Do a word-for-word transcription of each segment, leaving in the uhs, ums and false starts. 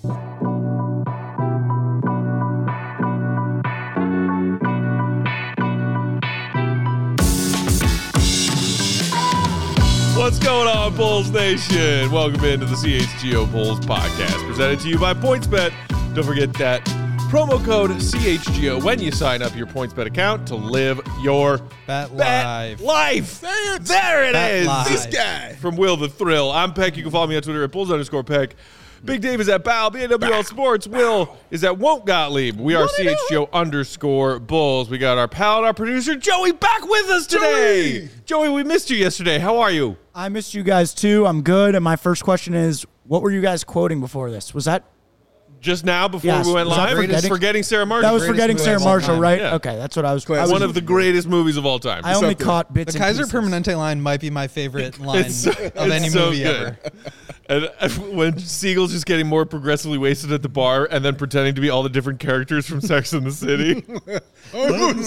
What's going on, Bulls Nation? Welcome into the C H G O Bulls podcast, presented to you by PointsBet. Don't forget that promo code C H G O when you sign up your PointsBet account to live your Bet bet life. life. There it Bet is. life. This guy. From Will the Thrill. I'm Peck. You can follow me on Twitter at Bulls underscore Peck. Big Dave is at Bow. B N W L Sports. Will is at Won't Gottlieb. We are C H G O underscore Bulls. We got our pal and our producer, Joey, back with us today. Joey, Joey, we missed you yesterday. How are you? I missed you guys too. I'm good. And my first question is, what were you guys quoting before this? Was that Just now, before Yes. we went Was that live? forgetting- Forgetting Sarah Marshall. that was greatest forgetting movie Sarah of all Marshall, time. right? Yeah. Okay, that's what I was. I Classic. was One of the greatest movies of all time. I only up there. caught bits. The and Kaiser pieces. Permanente line might be my favorite line It's so- of it's any so movie good. ever. And uh, when Siegel's just getting more progressively wasted at the bar and then pretending to be all the different characters from Sex and the City. Oh,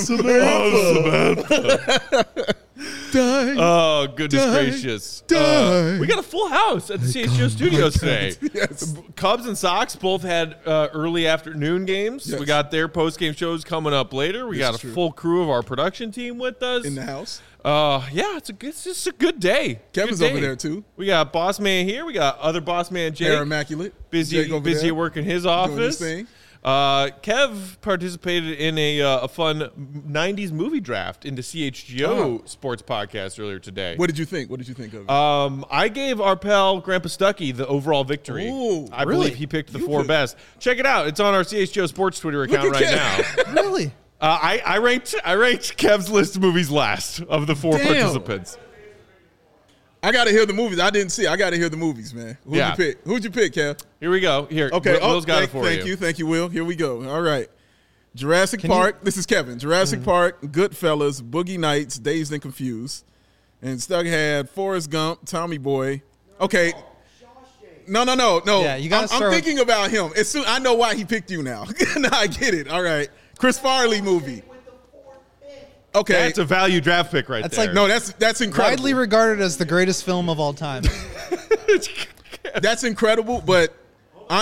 Samantha. Die. Oh, goodness Die. gracious. Die. Uh, we got a full house at the C H G O studios today. Yes. Cubs and Sox both had uh, early afternoon games. Yes. We got their post-game shows coming up later. We This got a is true. full crew of our production team with us. In the house. Uh, yeah, it's a good, it's just a good day. Kevin's Good day. over there, too. We got Boss Man here. We got other Boss Man Jake. Hair immaculate. busy, Jake over busy there at work in his doing office. his thing. Uh, Kev participated in a uh, a fun nineties movie draft into C H G O Oh. Sports Podcast earlier today. What did you think? What did you think of it? Um, I gave our pal Grandpa Stuckey the overall victory. Ooh, I really? believe he picked the You four put- best. Check it out. It's on our C H G O Sports Twitter account at right Kev. now. Really? Uh, I, I ranked I ranked Kev's list of movies last of the four Damn. participants. I got to hear the movies. I didn't see. I got to hear the movies, man. Who'd Yeah. you pick? Who'd you pick, Kev? Here we go. Here, Okay. Will, oh, Will's got thank, it for thank you. you. Thank you, Will. Here we go. All right. Jurassic Can you- Park. This is Kevin. Jurassic Mm-hmm. Park, Goodfellas, Boogie Nights, Dazed and Confused. And Stuck had Forrest Gump, Tommy Boy. Okay. No, no, no, no. Yeah, you gotta I'm, start I'm with- thinking about him. As soon, I know why he picked you now. Now I get it. All right. Chris Farley movie. Okay. That's a value draft pick right That's there. like- no, that's that's incredible. Widely regarded as the greatest film of all time. That's incredible, but I,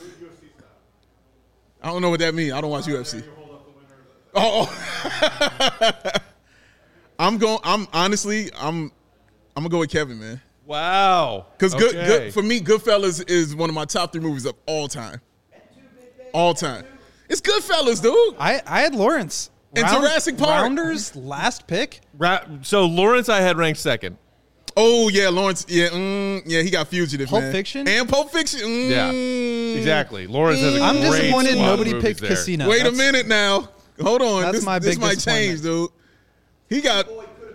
I don't know what that means. I don't watch U F C. Oh, oh. I'm going. I'm honestly, I'm, I'm gonna go with Kevin, man. Wow. Because good, Okay. good for me, Goodfellas is one of my top three movies of all time. All time. It's Goodfellas, dude. I, I had Lawrence. And Jurassic Park. Rounders last pick. Ra- so Lawrence I had ranked second. Oh yeah, Lawrence. Yeah, mm, yeah, he got Fugitive, Pulp man. Fiction? and Pulp Fiction. Mm. Yeah, exactly. Lawrence has a I'm great disappointed squad of nobody movies picked there. Casino. Wait That's- a minute now. Hold on. That's this my this big might disappointment. change, dude. He got.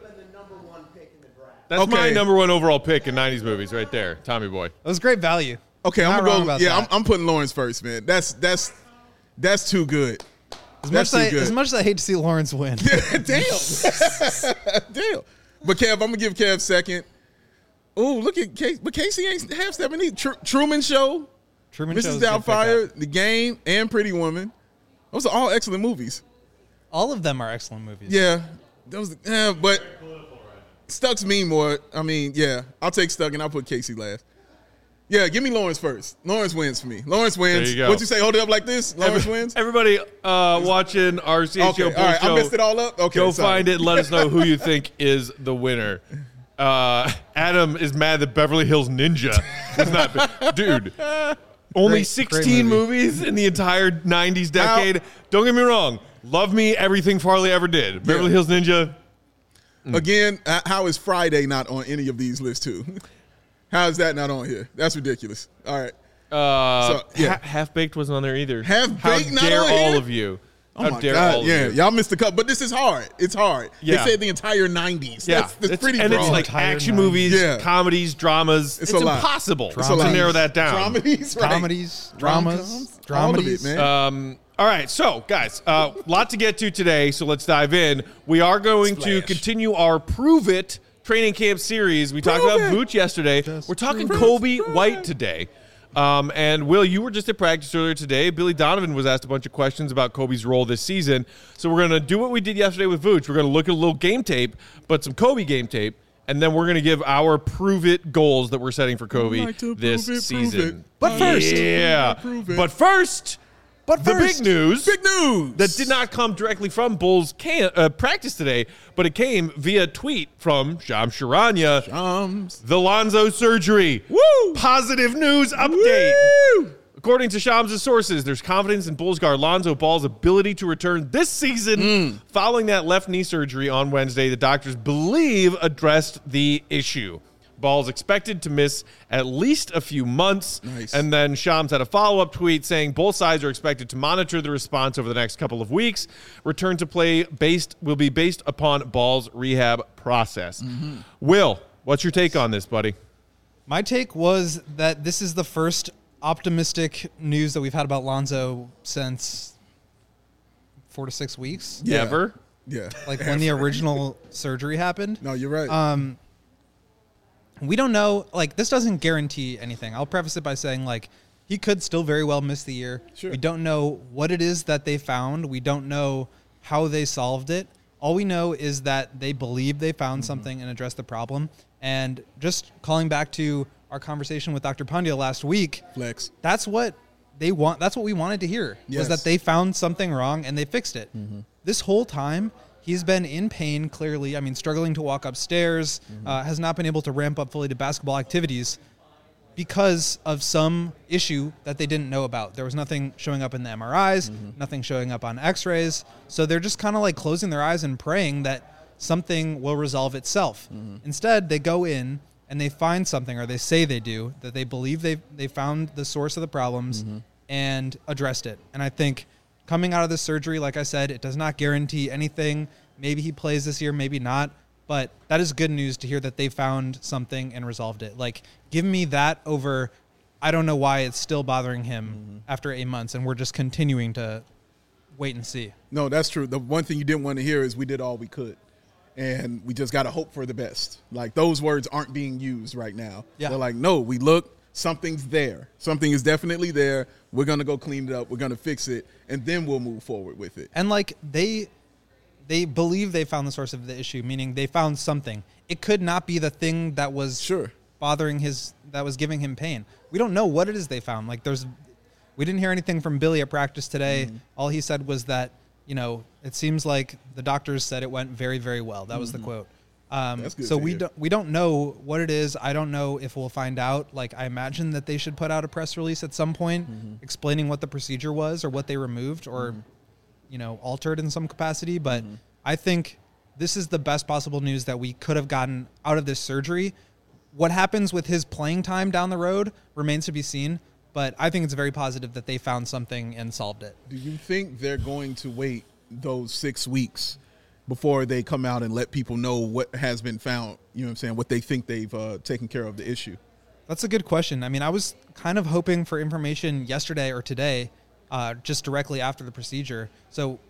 That's my Okay. number one overall pick in nineties movies right there, Tommy Boy. It was great value. Okay, Not I'm wrong gonna go. about Yeah, I'm, that. I'm putting Lawrence first, man. That's that's that's too good. As That's much, as too I, good. as much as I hate to see Lawrence win. Damn, damn. But Kev, I'm gonna give Kev second. Oh, look at Casey. But Casey ain't half stepping either. Tr- Truman Show, Truman Missus Show's a good Doubtfire, pickup. The Game, and Pretty Woman. Those are all excellent movies. All of them are excellent movies. Yeah, those. Yeah, but Stuck's mean more. I mean, yeah, I'll take Stuck and I'll put Casey last. Yeah, give me Lawrence first. Lawrence wins for me. Lawrence wins. There you go. What'd you say? Hold it up like this. Lawrence Every- wins. Everybody uh, watching our C H G O Okay, Bulls all right. show, I messed it all up. Okay, go sorry. find it and let us know who you think is the winner. Uh, Adam is mad that Beverly Hills Ninja was not. Dude, only Great- sixteen great movie. movies in the entire nineties decade. Don't get me wrong. Love me, everything Farley ever did. Beverly Hills Ninja. Again, h- how is Friday not on any of these lists too? How is that not on here? That's ridiculous. All right. Uh, So, yeah. Ha- Half Baked wasn't on there either. Half How Baked not dare on all here? of you? Oh How my dare God. all of Yeah, you? y'all missed the cut, but this is hard. It's hard. Yeah. They said the entire nineties. Yeah, That's, that's It's- pretty and broad. it's like Entire action nineties. movies, Yeah. comedies, dramas. It's, a lot. impossible It's a lot. to narrow that down. Dramedies, right? Comedies, dramas, Rom-coms, all of it, dramedies. man. Um, all right, so guys, a uh, lot to get to today, so let's dive in. We are going to Splash. continue our Prove It training camp series. We talked Prove about it. Vooch yesterday. Just We're talking prove it. Kobe Prove White it. today. Um, and Will, you were just at practice earlier today. Billy Donovan was asked a bunch of questions about Kobe's role this season. So we're going to do what we did yesterday with Vooch. We're going to look at a little game tape, but some Kobe game tape, and then we're going to give our prove it goals that we're setting for Kobe like to this prove it, season. prove it. But first- yeah. Prove it. But first, But the first, big news. Big news That did not come directly from Bulls can, uh, practice today, but it came via tweet from Shams Charania. Um, The Lonzo surgery. Woo! Positive news update. Woo! According to Shams' sources, there's confidence in Bulls guard Lonzo Ball's ability to return this season Mm. following that left knee surgery on Wednesday. The doctors believe addressed the issue. Ball's expected to miss at least a few months. Nice. And then Shams had a follow-up tweet saying both sides are expected to monitor the response over the next couple of weeks. Return to play based will be based upon Ball's rehab process. Mm-hmm. Will, what's your take on this, buddy? My take was that this is the first optimistic news that we've had about Lonzo since four to six weeks. Yeah. Ever? Yeah. Like when the original surgery happened. No, you're right. Um, we don't know. Like, this doesn't guarantee anything. I'll preface it by saying, like, he could still very well miss the year. Sure. We don't know what it is that they found. We don't know how they solved it. All we know is that they believe they found Mm-hmm. something and addressed the problem. And just calling back to our conversation with Doctor Pandya last week, Flex. that's what they want. That's what we wanted to hear, Yes. was that they found something wrong and they fixed it. This whole time, he's been in pain, clearly. I mean, struggling to walk upstairs, uh, has not been able to ramp up fully to basketball activities because of some issue that they didn't know about. There was nothing showing up in the M R Is, nothing showing up on x-rays. So they're just kind of like closing their eyes and praying that something will resolve itself. Instead, they go in and they find something, or they say they do, that they believe they they found the source of the problems and addressed it. And I think coming out of this surgery, like I said, it does not guarantee anything. Maybe he plays this year, maybe not. But that is good news to hear that they found something and resolved it. Like, give me that over, I don't know why it's still bothering him after eight months, and we're just continuing to wait and see. No, that's true. The one thing you didn't want to hear is we did all we could. And we just got to hope for the best. Like, those words aren't being used right now. Yeah. They're like, no, we look, something's there. Something is definitely there. We're going to go clean it up. We're going to fix it. And then we'll move forward with it. And, like, they they believe they found the source of the issue, meaning they found something. It could not be the thing that was Sure. bothering his, that was giving him pain. We don't know what it is they found. Like, there's, we didn't hear anything from Billy at practice today. Mm-hmm. All he said was that, you know, it seems like the doctors said it went very, very well. That was the quote. Um, That's good so to we hear. don't we don't know what it is. I don't know if we'll find out. Like, I imagine that they should put out a press release at some point explaining what the procedure was or what they removed or, you know, altered in some capacity. But I think this is the best possible news that we could have gotten out of this surgery. What happens with his playing time down the road remains to be seen. But I think it's very positive that they found something and solved it. Do you think they're going to wait those six weeks before they come out and let people know what has been found? You know what I'm saying? What they think they've uh, taken care of the issue. That's a good question. I mean, I was kind of hoping for information yesterday or today, uh, just directly after the procedure. So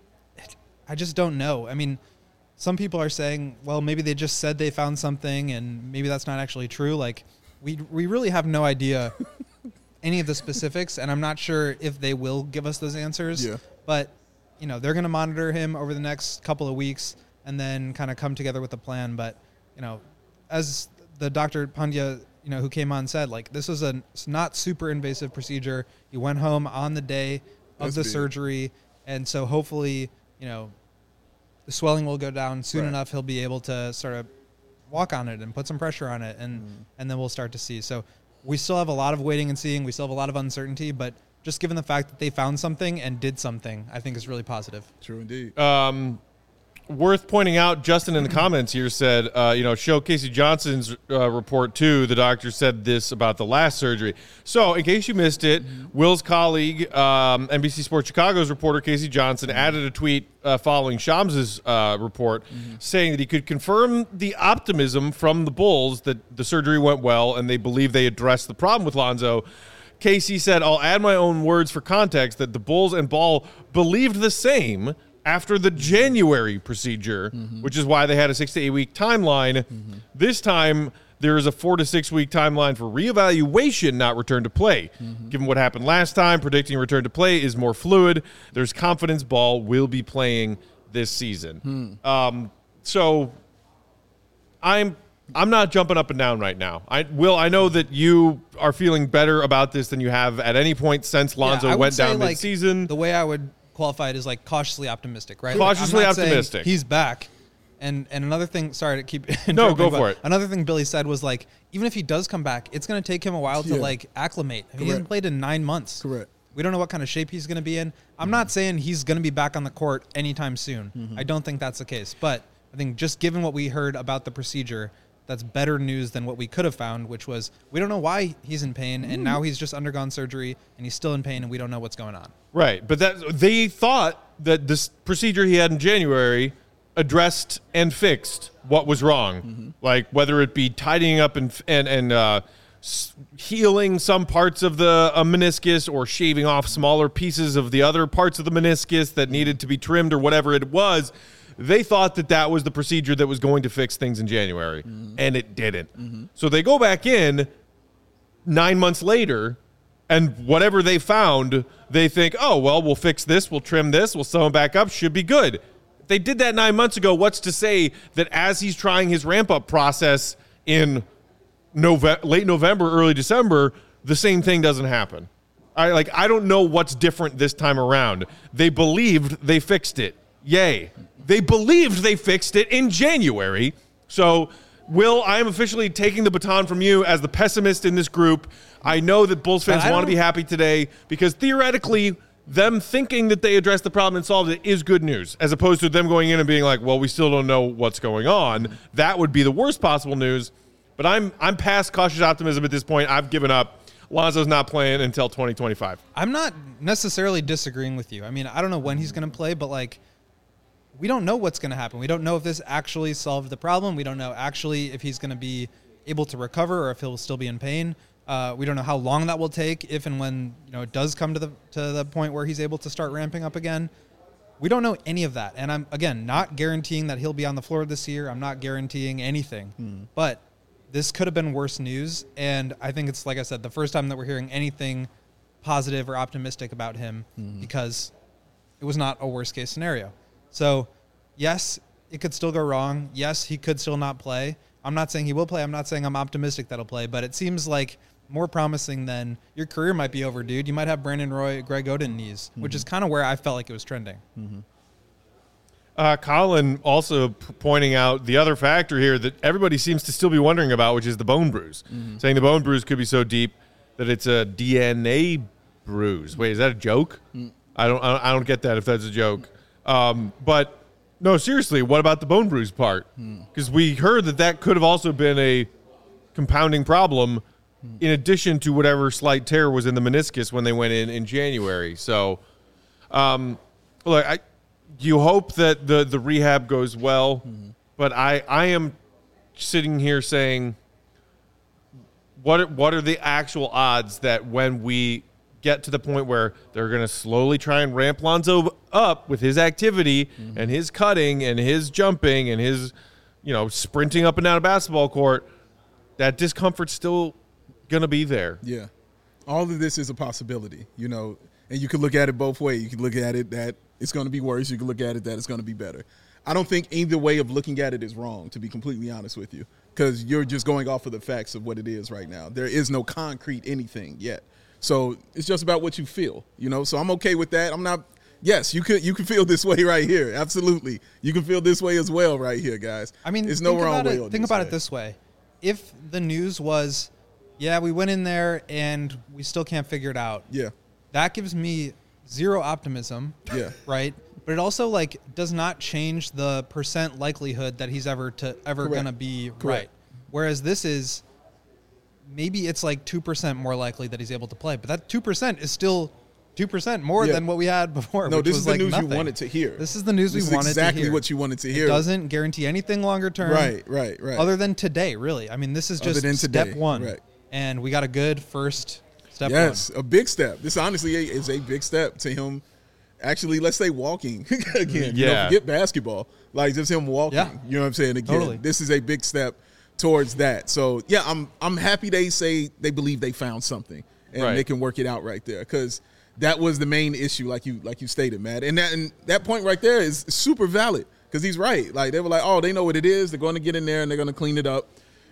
I just don't know. I mean, some people are saying, well, maybe they just said they found something and maybe that's not actually true. Like, we we really have no idea any of the specifics, and I'm not sure if they will give us those answers. Yeah. But, you know, they're going to monitor him over the next couple of weeks and then kind of come together with a plan. But, you know, as the Doctor Pandya, you know, who came on said, like, this is a not super invasive procedure. He went home on the day of That's the big. surgery. And so hopefully, you know, the swelling will go down soon Right. enough. He'll be able to sort of walk on it and put some pressure on it. And, Mm-hmm. and then we'll start to see. So we still have a lot of waiting and seeing. We still have a lot of uncertainty, but just given the fact that they found something and did something, I think is really positive. True indeed. Um, worth pointing out, Justin in the comments here said, uh, you know, show Casey Johnson's uh, report too. The doctor said this about the last surgery. So, in case you missed it, Will's colleague, um, N B C Sports Chicago's reporter Casey Johnson, added a tweet uh, following Shams's uh, report, saying that he could confirm the optimism from the Bulls that the surgery went well and they believe they addressed the problem with Lonzo. Casey said, I'll add my own words for context that the Bulls and Ball believed the same after the January procedure, mm-hmm. which is why they had a six to eight week timeline. Mm-hmm. This time, there is a four to six week timeline for reevaluation, not return to play. Mm-hmm. Given what happened last time, predicting return to play is more fluid. There's confidence Ball will be playing this season. Hmm. Um, so I'm I'm not jumping up and down right now. I Will, I know that you are feeling better about this than you have at any point since Lonzo Yeah, I would went say, down like, mid-season. The way I would qualify it is like cautiously optimistic, right? Cautiously like, I'm not saying optimistic. He's back. And and another thing, sorry to keep No, go but for it. Another thing Billy said was like, even if he does come back, it's going to take him a while to Yeah. like acclimate. He Correct. hasn't played in nine months. Correct. We don't know what kind of shape he's going to be in. I'm not saying he's going to be back on the court anytime soon. Mm-hmm. I don't think that's the case. But I think just given what we heard about the procedure, that's better news than what we could have found, which was we don't know why he's in pain, and now he's just undergone surgery, and he's still in pain, and we don't know what's going on. Right, but that they thought that this procedure he had in January addressed and fixed what was wrong, Mm-hmm. like whether it be tidying up and and and uh, s- healing some parts of the uh, meniscus or shaving off smaller pieces of the other parts of the meniscus that needed to be trimmed or whatever it was. They thought that that was the procedure that was going to fix things in January, Mm-hmm. and it didn't. So they go back in nine months later, and whatever they found, they think, oh, well, we'll fix this, we'll trim this, we'll sew him back up, should be good. If they did that nine months ago, what's to say that as he's trying his ramp-up process in Nove- late November, early December, the same thing doesn't happen? I, like, I don't know what's different this time around. They believed they fixed it. Yay. They believed they fixed it in January. So, Will, I am officially taking the baton from you as the pessimist in this group. I know that Bulls fans I want to don't- be happy today because theoretically, them thinking that they addressed the problem and solved it is good news, as opposed to them going in and being like, well, we still don't know what's going on. That would be the worst possible news. But I'm I'm past cautious optimism at this point. I've given up. Lonzo's not playing until twenty twenty-five. I'm not necessarily disagreeing with you. I mean, I don't know when he's going to play, but like, we don't know what's going to happen. We don't know if this actually solved the problem. We don't know actually if he's going to be able to recover or if he'll still be in pain. Uh, we don't know how long that will take, if and when you know it does come to the to the point where he's able to start ramping up again. We don't know any of that, and I'm again not guaranteeing that he'll be on the floor this year. I'm not guaranteeing anything, Hmm. but this could have been worse news, and I think it's like I said, the first time that we're hearing anything positive or optimistic about him because it was not a worst case scenario. So, yes, it could still go wrong. Yes, he could still not play. I'm not saying he will play. I'm not saying I'm optimistic that he'll play, but it seems like more promising than your career might be over, dude. You might have Brandon Roy, Greg Oden knees, which is kind of where I felt like it was trending. Uh, Colin also p- pointing out the other factor here that everybody seems to still be wondering about, which is the bone bruise. Saying the bone bruise could be so deep that it's a D N A bruise. Wait, is that a joke? I don't. I don't- I don't get that if that's a joke. Um, but no, seriously, what about the bone bruise part? Because we heard that that could have also been a compounding problem, in addition to whatever slight tear was in the meniscus when they went in in January. So, um, look, I. You hope that the, the rehab goes well, Mm-hmm. but I, I am sitting here saying, what are, what are the actual odds that when we get to the point where they're going to slowly try and ramp Lonzo up with his activity Mm-hmm. and his cutting and his jumping and his, you know, sprinting up and down a basketball court, that discomfort's still going to be there. Yeah. All of this is a possibility, you know, and you could look at it both ways. You could look at it that it's going to be worse. You can look at it that it's going to be better. I don't think either way of looking at it is wrong, to be completely honest with you, because you're just going off of the facts of what it is right now. There is no concrete anything yet. So it's just about what you feel, you know. So I'm okay with that. I'm not – yes, you could you can feel this way right here. Absolutely. You can feel this way as well right here, guys. I mean, there's no think wrong about way it, on Think this about way. it this way. If the news was, yeah, we went in there and we still can't figure it out. Yeah. That gives me zero optimism. Yeah. Right. But it also like does not change the percent likelihood that he's ever to ever Correct. gonna be Correct. right. Whereas this is maybe it's like two percent more likely that he's able to play, but that two percent is still two percent more Yeah. than what we had before. No, which this was is the like news nothing. you wanted to hear. This is the news This we is wanted exactly to hear. what you wanted to It hear. doesn't guarantee anything longer term. Right, right, right. Other than today, really. I mean, this is Other just than step today, one, right. and we got a good first step Yes, one. a big step. This honestly is a big step to him. Actually, let's say walking again. You know, Yeah. forget basketball. Like just him walking. Yeah. You know what I'm saying? Again, Totally. this is a big step towards that. So yeah, I'm I'm happy they say they believe they found something and Right. they can work it out right there, because that was the main issue, like you like you stated, Matt. And that and that point right there is super valid, because he's right. Like they were like, oh, they know what it is. They're going to get in there and they're going to clean it up.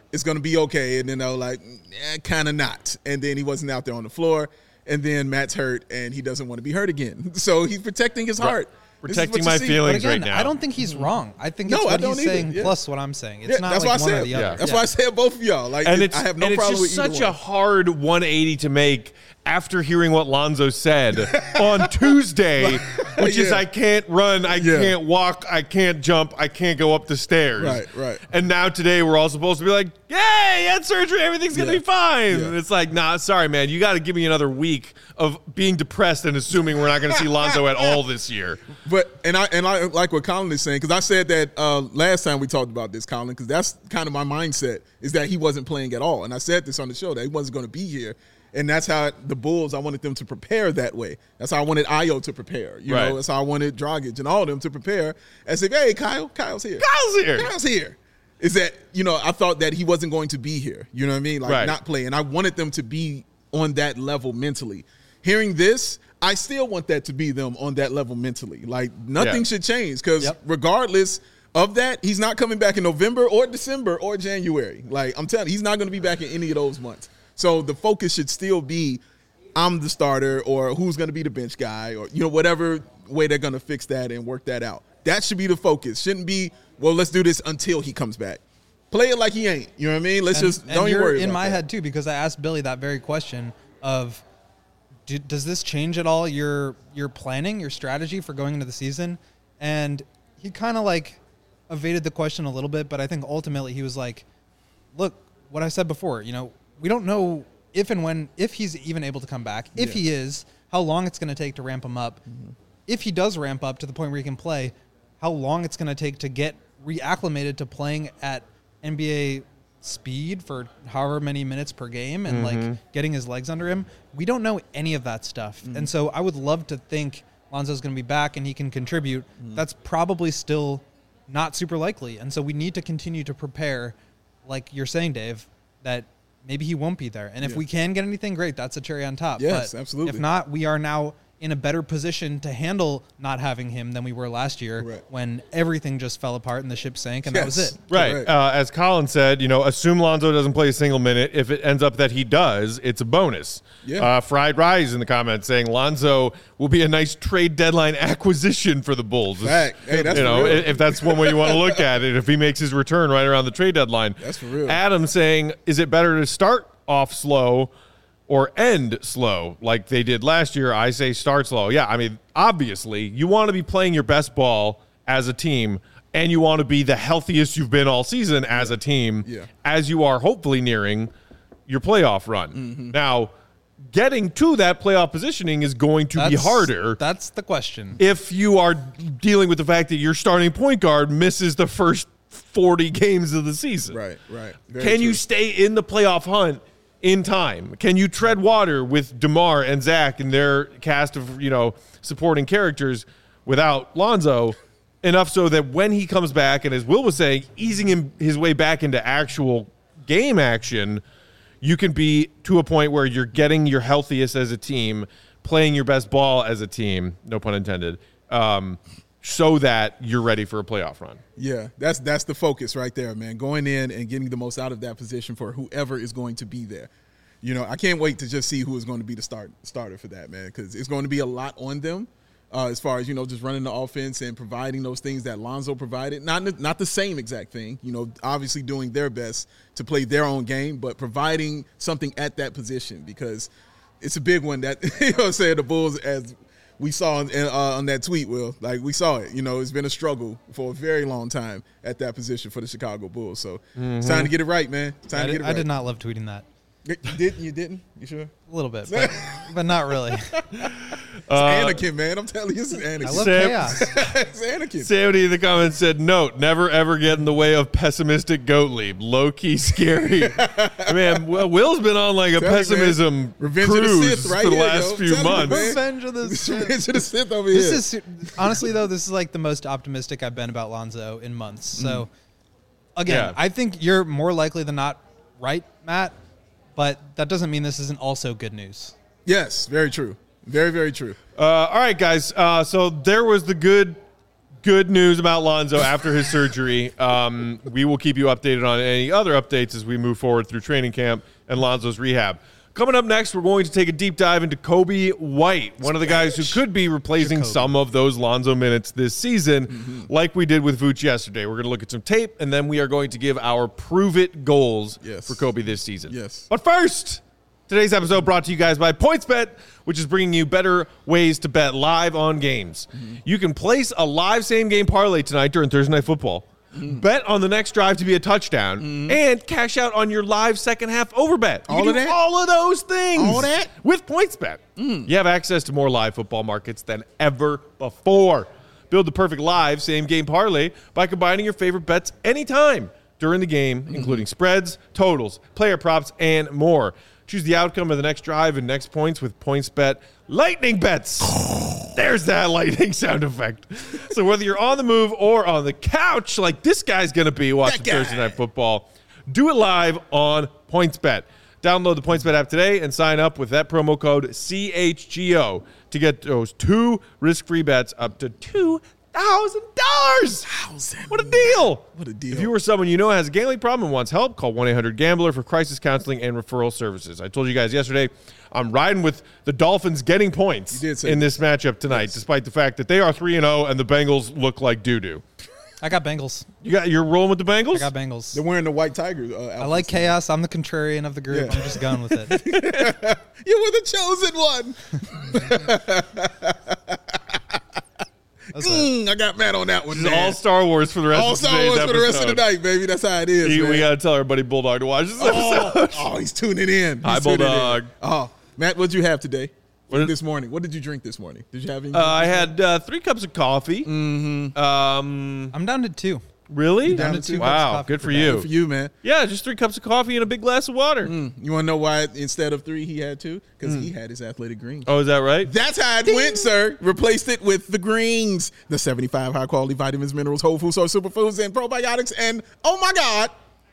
it's going to be okay. And then they're like, eh, kind of not. And then he wasn't out there on the floor. And then Matt's hurt, and he doesn't want to be hurt again. So he's protecting his Right. heart. Protecting you my see. feelings But again, right now. I don't think he's wrong. I think No, it's I what don't he's either. saying Yeah. plus what I'm saying. It's Yeah, not that's like why I one or said. the Yeah. other. That's Yeah. why I said both of y'all. Like, and it- it's I have no and it's problem just with either such one. a hard one eighty to make after hearing what Lonzo said on Tuesday, which is Yeah. I can't run, I Yeah. can't walk, I can't jump, I can't go up the stairs. Right, right. And now today we're all supposed to be like, yay, he had surgery, everything's gonna Yeah. be fine. Yeah. And it's like, nah, sorry, man, you got to give me another week of being depressed and assuming we're not going to see Lonzo at all this year. But and I and I like what Colin is saying, because I said that uh, last time we talked about this, Colin, because that's kind of my mindset, is that he wasn't playing at all. And I said this on the show, that he wasn't going to be here. And that's how the Bulls, I wanted them to prepare that way. That's how I wanted Ayo to prepare. You Right. know, that's how I wanted Dragic and all of them to prepare as if, hey, Kyle, Kyle's here. Kyle's here. Kyle's here. Is that, you know, I thought that he wasn't going to be here. You know what I mean? Like, Right. not play. And I wanted them to be on that level mentally. Hearing this, I still want that to be them on that level mentally. Like, nothing Yeah. should change, because Yep. regardless of that, he's not coming back in November or December or January. Like, I'm telling you, he's not going to be back in any of those months. So the focus should still be, I'm the starter, or who's going to be the bench guy, or, you know, whatever way they're going to fix that and work that out. That should be the focus. Shouldn't be, well, let's do this until he comes back. Play it like he ain't. You know what I mean? Let's And- just and don't even you're worry in about my that. head too, because I asked Billy that very question of, do, does this change at all your your planning, your strategy for going into the season? And he kind of like evaded the question a little bit, but I think ultimately he was like, look, what I said before, you know, we don't know if and when, if he's even able to come back. If Yeah. he is, how long it's going to take to ramp him up. Mm-hmm. If he does ramp up to the point where he can play, how long it's going to take to get reacclimated to playing at N B A speed for however many minutes per game and like getting his legs under him. We don't know any of that stuff. And so I would love to think Lonzo's going to be back and he can contribute. That's probably still not super likely. And so we need to continue to prepare, like you're saying, Dave, that maybe he won't be there. And if Yeah. we can get anything, great. That's a cherry on top. Yes, But absolutely. If not, we are now in a better position to handle not having him than we were last year Correct. when everything just fell apart and the ship sank and that was Yes. it. Right. Correct. Uh, as Colin said, you know, assume Lonzo doesn't play a single minute. If it ends up that he does, it's a bonus. Yeah. Uh, Fried Rise in the comments saying Lonzo will be a nice trade deadline acquisition for the Bulls. Fact. Hey, that's you for know, real. if that's one way you want to look at it, if he makes his return right around the trade deadline. That's for real. Adam saying, is it better to start off slow or end slow like they did last year? I say start slow. Yeah, I mean, obviously, you want to be playing your best ball as a team, and you want to be the healthiest you've been all season as a team, Yeah. as you are hopefully nearing your playoff run. Mm-hmm. Now, getting to that playoff positioning is going to be That's- harder That's the question. if you are dealing with the fact that your starting point guard misses the first forty games of the season. Right, right. Very Can you true. stay in the playoff hunt in time? Can you tread water with DeMar and Zach and their cast of, you know, supporting characters without Lonzo enough so that when he comes back, and as Will was saying, easing him his way back into actual game action, you can be to a point where you're getting your healthiest as a team, playing your best ball as a team, no pun intended, um, so that you're ready for a playoff run. Yeah, that's that's the focus right there, man. Going in and getting the most out of that position for whoever is going to be there. You know, I can't wait to just see who is going to be the start starter for that, man, because it's going to be a lot on them uh, as far as, you know, just running the offense and providing those things that Lonzo provided. Not not the same exact thing, you know, obviously doing their best to play their own game, but providing something at that position, because it's a big one that, you know what I'm saying, the Bulls, as we saw on, uh, on that tweet, Will, like we saw it. You know, it's been a struggle for a very long time at that position for the Chicago Bulls. So it's time to get it right, man. It's time I to did, get it I right. did not love tweeting that. You didn't? You didn't? You sure? A little bit, but, but not really. It's Anakin, man. I'm telling you, it's Anakin. I love Sam- chaos. it's Anakin. Sammy in the comments said, note, never ever get in the way of pessimistic goat leap. Low key scary. Man, well, Will's been on like a Tell you, man. pessimism Revenge of the cruise Sith right for the here, last yo. few Tell you, months. man. Revenge of the It's Sith. Revenge of the Sith over This here. is honestly though, this is like the most optimistic I've been about Lonzo in months. So again, Yeah. I think you're more likely than not right, Matt. But that doesn't mean this isn't also good news. Yes, very true. Very, very true. Uh, all right, guys. Uh, so there was the good good news about Lonzo after his surgery. Um, we will keep you updated on any other updates as we move forward through training camp and Lonzo's rehab. Coming up next, we're going to take a deep dive into Kobe White, one of the guys who could be replacing Jacoby. some of those Lonzo minutes this season, mm-hmm. like we did with Vooch yesterday. We're going to look at some tape, and then we are going to give our prove-it goals yes. for Kobe this season. Yes. But first, today's episode brought to you guys by PointsBet, which is bringing you better ways to bet live on games. Mm-hmm. You can place a live same-game parlay tonight during Thursday Night Football. Mm. Bet on the next drive to be a touchdown, mm. and cash out on your live second half overbet. You all can of do that? All of those things. All that? With PointsBet. Mm. You have access to more live football markets than ever before. Build the perfect live same-game parlay by combining your favorite bets anytime during the game, mm. including spreads, totals, player props, and more. Choose the outcome of the next drive and next points with PointsBet Lightning Bets. There's that lightning sound effect. So whether you're on the move or on the couch, like this guy's going to be watching Thursday Night Football, do it live on PointsBet. Download the PointsBet app today and sign up with that promo code C H G O to get those two risk-free bets up to two thousand dollars. What a deal. What a deal. If you or someone you know has a gambling problem and wants help, call one eight hundred gambler for crisis counseling and referral services. I told you guys yesterday, I'm riding with the Dolphins getting points You did say in that. this matchup tonight, Yes. despite the fact that they are three and oh and the Bengals look like doo-doo. I got Bengals. You got, you're rolling with the Bengals? I got Bengals. They're wearing the white tiger. Uh, I like outfits. chaos. I'm the contrarian of the group. Yeah. I'm just going with it. You were the chosen one. That's it. Mm, I got mad on that one. This is man. all Star Wars for the rest All of Star today's Wars episode. for the rest of the night, baby. That's how it is. You- man. we got to tell everybody Bulldog to watch this episode. Oh, oh, he's tuning in. He's Hi, tuning in. Bulldog. Oh, Matt, what'd you have today? What did- this morning? What did you drink this morning? Did you have any? Uh, I had uh, three cups of coffee. Mm-hmm. Um, I'm down to two. really? Down to to two two? cups of Wow, coffee good per for day. you. Good for you, man. Yeah, just three cups of coffee and a big glass of water. Mm. You want to know why instead of three he had two? Because he had his athletic greens. Oh, is that right? That's how it went, sir. Replaced it with the greens, the seventy-five high-quality vitamins, minerals, whole food source superfoods, and probiotics, and oh my God,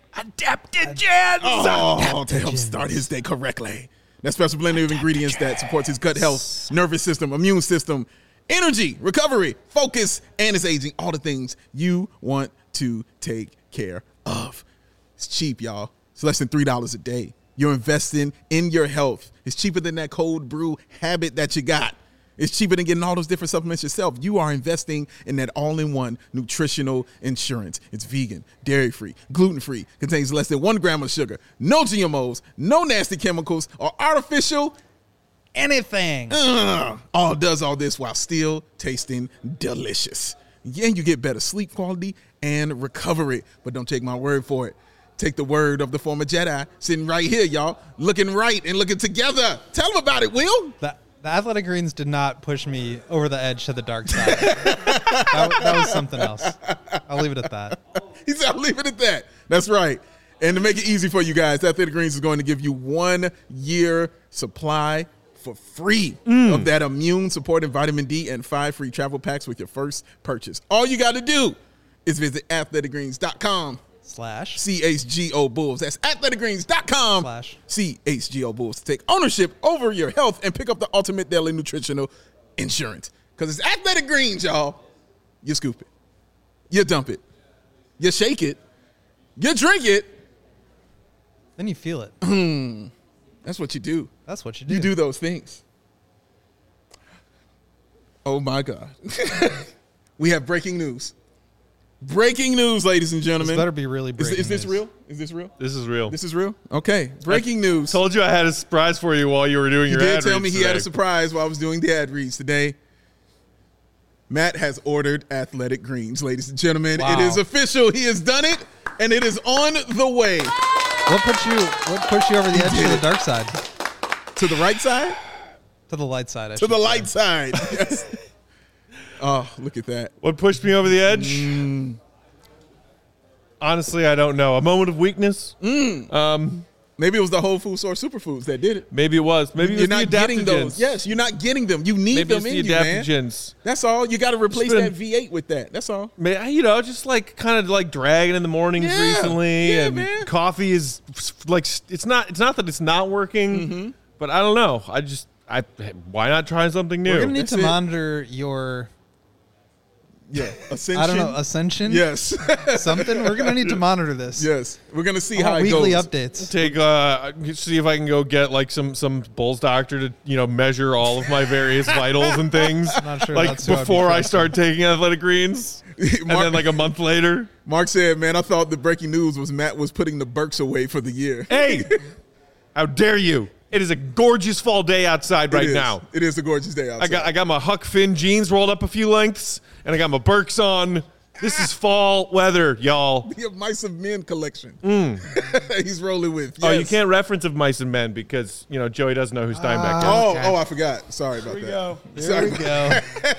Adaptogens. oh, to help start his day correctly. That special blend of ingredients that supports his gut health, nervous system, immune system, energy, recovery, focus, and his aging. All the things you want to take care of. It's cheap, y'all. It's less than three dollars a day. You're investing in your health. It's cheaper than that cold brew habit that you got. It's cheaper than getting all those different supplements yourself. You are investing in that all-in-one nutritional insurance. It's vegan, dairy-free, gluten-free, contains less than one gram of sugar, no G M Os, no nasty chemicals, or artificial Anything. uh, all does all this while still tasting delicious. And you get better sleep quality and recovery. But don't take my word for it. Take the word of the former Jedi sitting right here, y'all, looking right and looking together. Tell them about it, Will. The, the athletic greens did not push me over the edge to the dark side. that, that was something else. I'll leave it at that. He said, I'll leave it at that. That's right. And to make it easy for you guys, Athletic Greens is going to give you one year supply for free Mm. of that immune supporting vitamin D and five free travel packs with your first purchase. All you got to do is visit athletic greens dot com Slash. C H G O Bulls. That's athletic greens dot com Slash. C H G O Bulls to take ownership over your health and pick up the ultimate daily nutritional insurance. Because it's Athletic Greens, y'all. You scoop it. You dump it. You shake it. You drink it. Then you feel it. That's what you do. That's what you do. You do those things. Oh, my God. We have breaking news. Breaking news, ladies and gentlemen. This better be really Is, breaking is this news. real? Is this real? This is real. This is real? Okay. Breaking news. Told you I had a surprise for you while you were doing He your did ad tell me reads he had a today. surprise while I was doing the ad reads today. Matt has ordered Athletic Greens, ladies and gentlemen. Wow. It is official. He has done it, and it is on the way. What put you? What pushed you over the edge to the dark side? To the right side? To the light side. I To should the say. light side. Yes. Oh, look at that. What pushed me over the edge? Mm. Honestly, I don't know. A moment of weakness? Mm. Um, Maybe it was the Whole Food Source Superfoods that did it. maybe it was. Maybe it You're was the not getting adaptogens. those. Yes, you're not getting them. You need Maybe them it's in the you, man. adaptogens. That's all. You got to replace been- that V eight with that. That's all. May- You know, just like kind of like dragging in the mornings Yeah. recently, Yeah, and man. coffee is like it's not. It's not that it's not working, Mm-hmm. but I don't know. I just I why not try something new? We're gonna need That's to it. monitor your Yeah, Ascension. I don't know, Ascension? Yes. Something? We're going to need to monitor this. Yes. We're going to see I how want it weekly goes. updates. Take uh, see if I can go get like some some Bulls doctor to you know measure all of my various vitals and things. I'm not sure like that's who I'd be before I trusting. start taking athletic greens, and Mark- then like a month later. Mark said, man, I thought the breaking news was Matt was putting the Burks away for the year. Hey, how dare you! It is a gorgeous fall day outside right It is. now. It is a gorgeous day outside. I got I got my Huck Finn jeans rolled up a few lengths, and I got my Birks on. This is fall weather, y'all. The Mice of Men collection. Mm. He's rolling with. Oh, you Yes. can't reference of Mice and Men because you know Joey doesn't know who Steinbeck is. Oh, Okay. oh, I forgot. Sorry about Here we that. go. There Sorry. we go.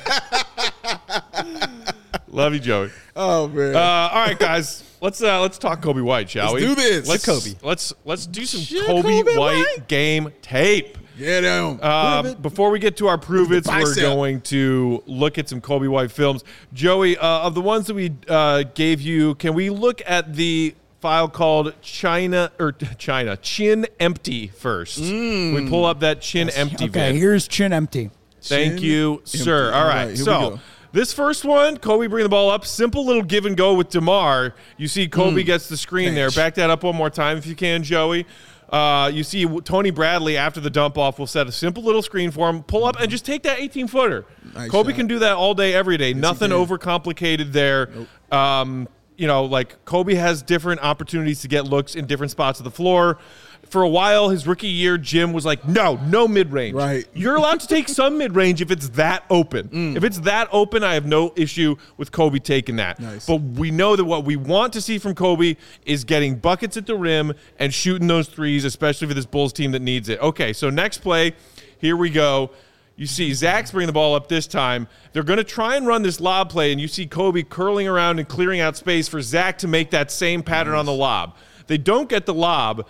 Love you, Joey. Oh man. Uh, all right, guys, let's uh, let's talk Kobe White, shall Let's we? do this. Let's Kobe. Let's let's do some Shit, Kobe, Kobe White, White. game tape. Get him. Uh, before we get to our prove it's, we're bicep. going to look at some Kobe White films. Joey, uh, of the ones that we uh, gave you, can we look at the file called China or China Chin Empty first? Mm. We pull up that Chin Empty Okay, vid. here's Chin Empty. Thank Chin you, empty. sir. All All right, right, here we so go. this first one, Kobe bringing the ball up, simple little give and go with DeMar. You see Kobe Mm. gets the screen there. Thanks. Back that up one more time if you can, Joey. Uh, you see Tony Bradley after the dump off will set a simple little screen for him, pull up and just take that eighteen footer. Nice Kobe shot. can do that all day, every day. Nothing can. overcomplicated there. Um, you know, like Kobe has different opportunities to get looks in different spots of the floor. For a while, his rookie year, Jim was like, no, no mid-range. Right. You're allowed to take some mid-range if it's that open. Mm. If it's that open, I have no issue with Kobe taking that. Nice. But we know that what we want to see from Kobe is getting buckets at the rim and shooting those threes, especially for this Bulls team that needs it. Okay, so next play, here we go. You see Zach's bringing the ball up this time. They're going to try and run this lob play, and you see Kobe curling around and clearing out space for Zach to make that same pattern on the lob. They don't get the lob.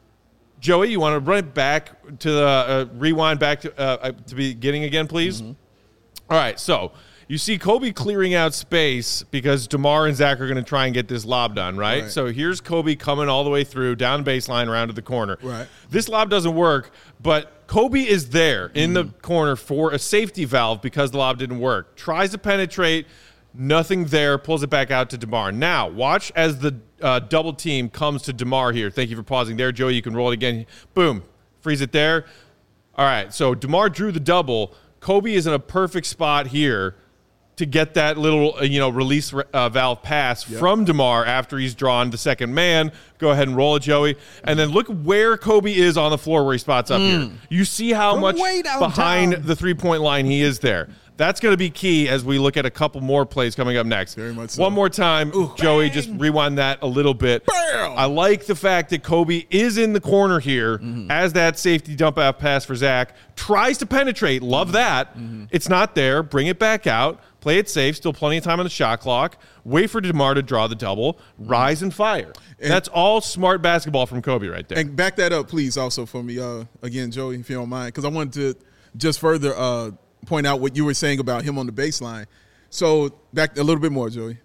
Joey, you want to run it back to the uh, rewind back to uh, to the beginning again, please? Mm-hmm. All right, so you see Kobe clearing out space because DeMar and Zach are going to try and get this lob done, right? Right. So here's Kobe coming all the way through, down baseline, around to the corner. Right. This lob doesn't work, but Kobe is there in the Mm-hmm. corner for a safety valve because the lob didn't work. Tries to penetrate, nothing there, pulls it back out to DeMar. Now, watch as the uh, double team comes to DeMar here. Thank you for pausing there, Joey. You can roll it again. Boom. Freeze it there. All right, so DeMar drew the double. Kobe is in a perfect spot here to get that little, uh, you know, release uh, valve pass Yep. from DeMar after he's drawn the second man. Go ahead and roll it, Joey. And then look where Kobe is on the floor where he spots up here. You see how From much way downtown. behind the three-point line he is there. That's going to be key as we look at a couple more plays coming up next. Very much so. One more time, Joey, just rewind that a little bit. Bam! I like the fact that Kobe is in the corner here as that safety dump out pass for Zach. Tries to penetrate. Love that. It's not there. Bring it back out. Play it safe. Still plenty of time on the shot clock. Wait for DeMar to draw the double. Rise and fire. And- That's all smart basketball from Kobe right there. And back that up, please, also for me, uh, again, Joey, if you don't mind, because I wanted to just further uh, point out what you were saying about him on the baseline. So back a little bit more, Joey.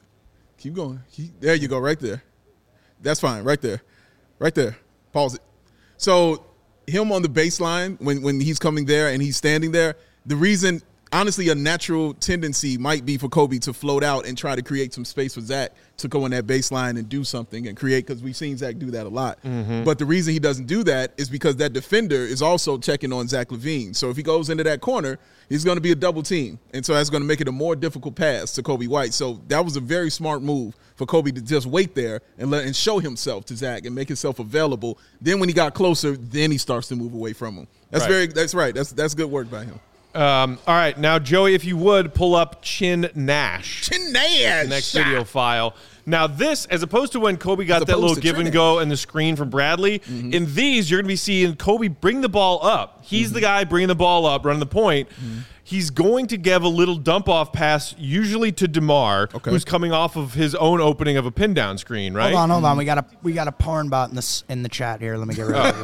Keep going. Keep, there you go, right there. That's fine, right there, right there. Pause it. So him on the baseline when when he's coming there and he's standing there, the reason. Honestly, a natural tendency might be for Kobe to float out and try to create some space for Zach to go on that baseline and do something and create, because we've seen Zach do that a lot. Mm-hmm. But the reason he doesn't do that is because that defender is also checking on Zach LaVine. So if he goes into that corner, he's going to be a double team. And so that's going to make it a more difficult pass to Kobe White. So that was a very smart move for Kobe to just wait there and let and show himself to Zach and make himself available. Then when he got closer, then he starts to move away from him. That's Right. very that's right. That's that's good work by him. Um, all right, now, Joey, if you would, pull up Chin Nash. Nash. Next video file. Now this, as opposed to when Kobe got As that opposed little to give and Trinidad. go and the screen from Bradley, Mm-hmm. in these you're going to be seeing Kobe bring the ball up. He's Mm-hmm. the guy bringing the ball up, running the point. He's going to give a little dump-off pass, usually to DeMar, Okay. who's coming off of his own opening of a pin-down screen, right? Hold on, hold on. We got a we got a porn bot in this in the chat here. Let me get rid of it.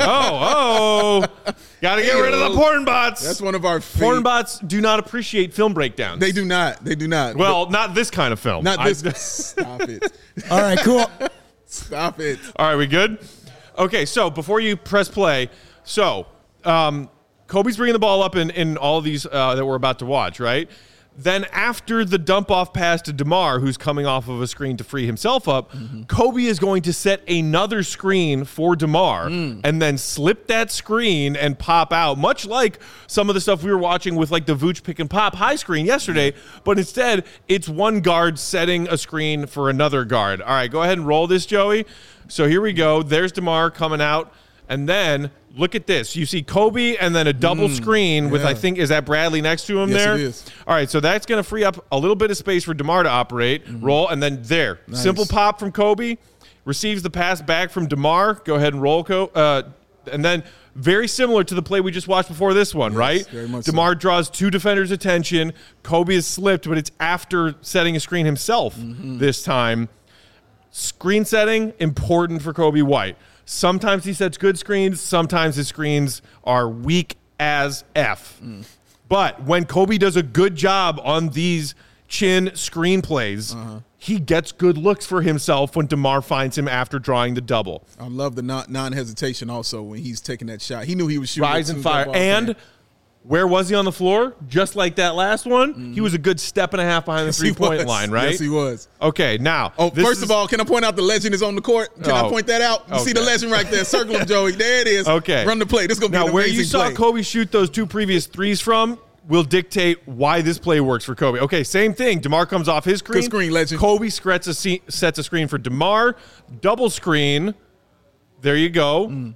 Oh, oh. Got to get rid of the porn bots. That's one of our Porn fav- bots do not appreciate film breakdowns. They do not. They do not. Well, not this kind of film. But not I- this. Stop it. All right, cool. Stop it. All right, we good? Okay, so before you press play, so um, Kobe's bringing the ball up in, in all of these uh, that we're about to watch, right? Then after the dump off pass to DeMar, who's coming off of a screen to free himself up, mm-hmm. Kobe is going to set another screen for DeMar mm. and then slip that screen and pop out, much like some of the stuff we were watching with like the Vooch pick and pop high screen yesterday, but instead it's one guard setting a screen for another guard. All right, go ahead and roll this, Joey. So here we go. There's DeMar coming out, and then look at this. You see Kobe and then a double mm, screen yeah. with, I think, is that Bradley next to him yes, there? It is. All right, so that's going to free up a little bit of space for DeMar to operate, mm-hmm. roll, and then there. Nice. Simple pop from Kobe, receives the pass back from DeMar. Go ahead and roll. Co- uh, and then very similar to the play we just watched before this one, yes, right? Very much DeMar so. draws two defenders' attention. Kobe is slipped, but it's after setting a screen himself mm-hmm. this time. Screen setting, important for Kobe White. Sometimes he sets good screens. Sometimes his screens are weak as F. Mm. But when Kobe does a good job on these chin screenplays, uh-huh. he gets good looks for himself when DeMar finds him after drawing the double. I love the non- non-hesitation also when he's taking that shot. He knew he was shooting. Rise and fire. And where was he on the floor? Just like that last one, mm-hmm. he was a good step and a half behind the yes, three-point line, right? Yes, he was. Okay, now. Oh, first is... of all, can I point out the legend is on the court? Can oh, I point that out? You okay. see the legend right there. Circle him, Joey. There it is. Okay. Run the play. This is going to be now, an where amazing you saw play. Kobe shoot those two previous threes from will dictate why this play works for Kobe. Okay, same thing. DeMar comes off his screen. Good screen, legend. Kobe sets a, sets a screen for DeMar. Double screen. There you go. Mm.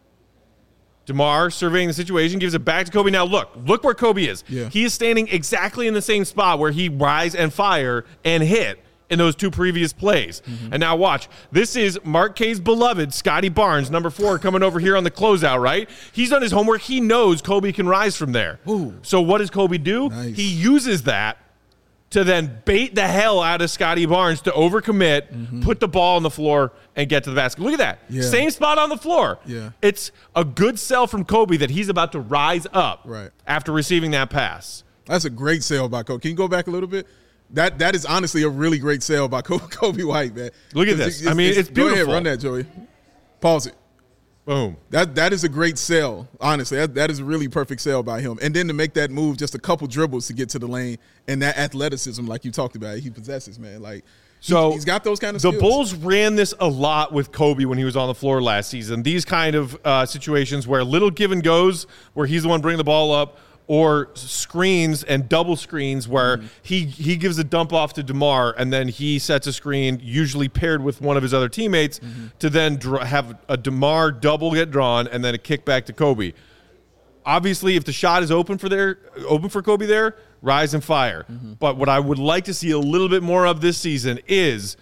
DeMar surveying the situation, gives it back to Kobe. Now look, look where Kobe is. Yeah. He is standing exactly in the same spot where he rise and fire and hit in those two previous plays. Mm-hmm. And now watch. This is Mark K's beloved, Scotty Barnes, number four, coming over here on the closeout, right? He's done his homework. He knows Kobe can rise from there. Ooh. So what does Kobe do? Nice. He uses that to then bait the hell out of Scotty Barnes to overcommit, mm-hmm. put the ball on the floor, and get to the basket. Look at that. Yeah. Same spot on the floor. Yeah. It's a good sell from Kobe that he's about to rise up right. after receiving that pass. That's a great sale by Kobe. Can you go back a little bit? That That is honestly a really great sale by Kobe White, man. Look at this. It's, I mean, it's, it's beautiful. Go ahead, run that, Joey. Pause it. Boom. That That is a great sell, honestly. That, that is a really perfect sell by him. And then to make that move, just a couple dribbles to get to the lane, and that athleticism, like you talked about, he possesses, man. Like, so he, he's got those kind of the skills. Bulls ran this a lot with Kobe when he was on the floor last season. These kind of uh, situations where little give and goes, where he's the one bringing the ball up, or screens and double screens where mm-hmm. he, he gives a dump off to DeMar and then he sets a screen, usually paired with one of his other teammates, mm-hmm. to then dr- have a DeMar double get drawn and then a kick back to Kobe. Obviously, if the shot is open for their open for Kobe there, rise and fire. Mm-hmm. But what I would like to see a little bit more of this season is,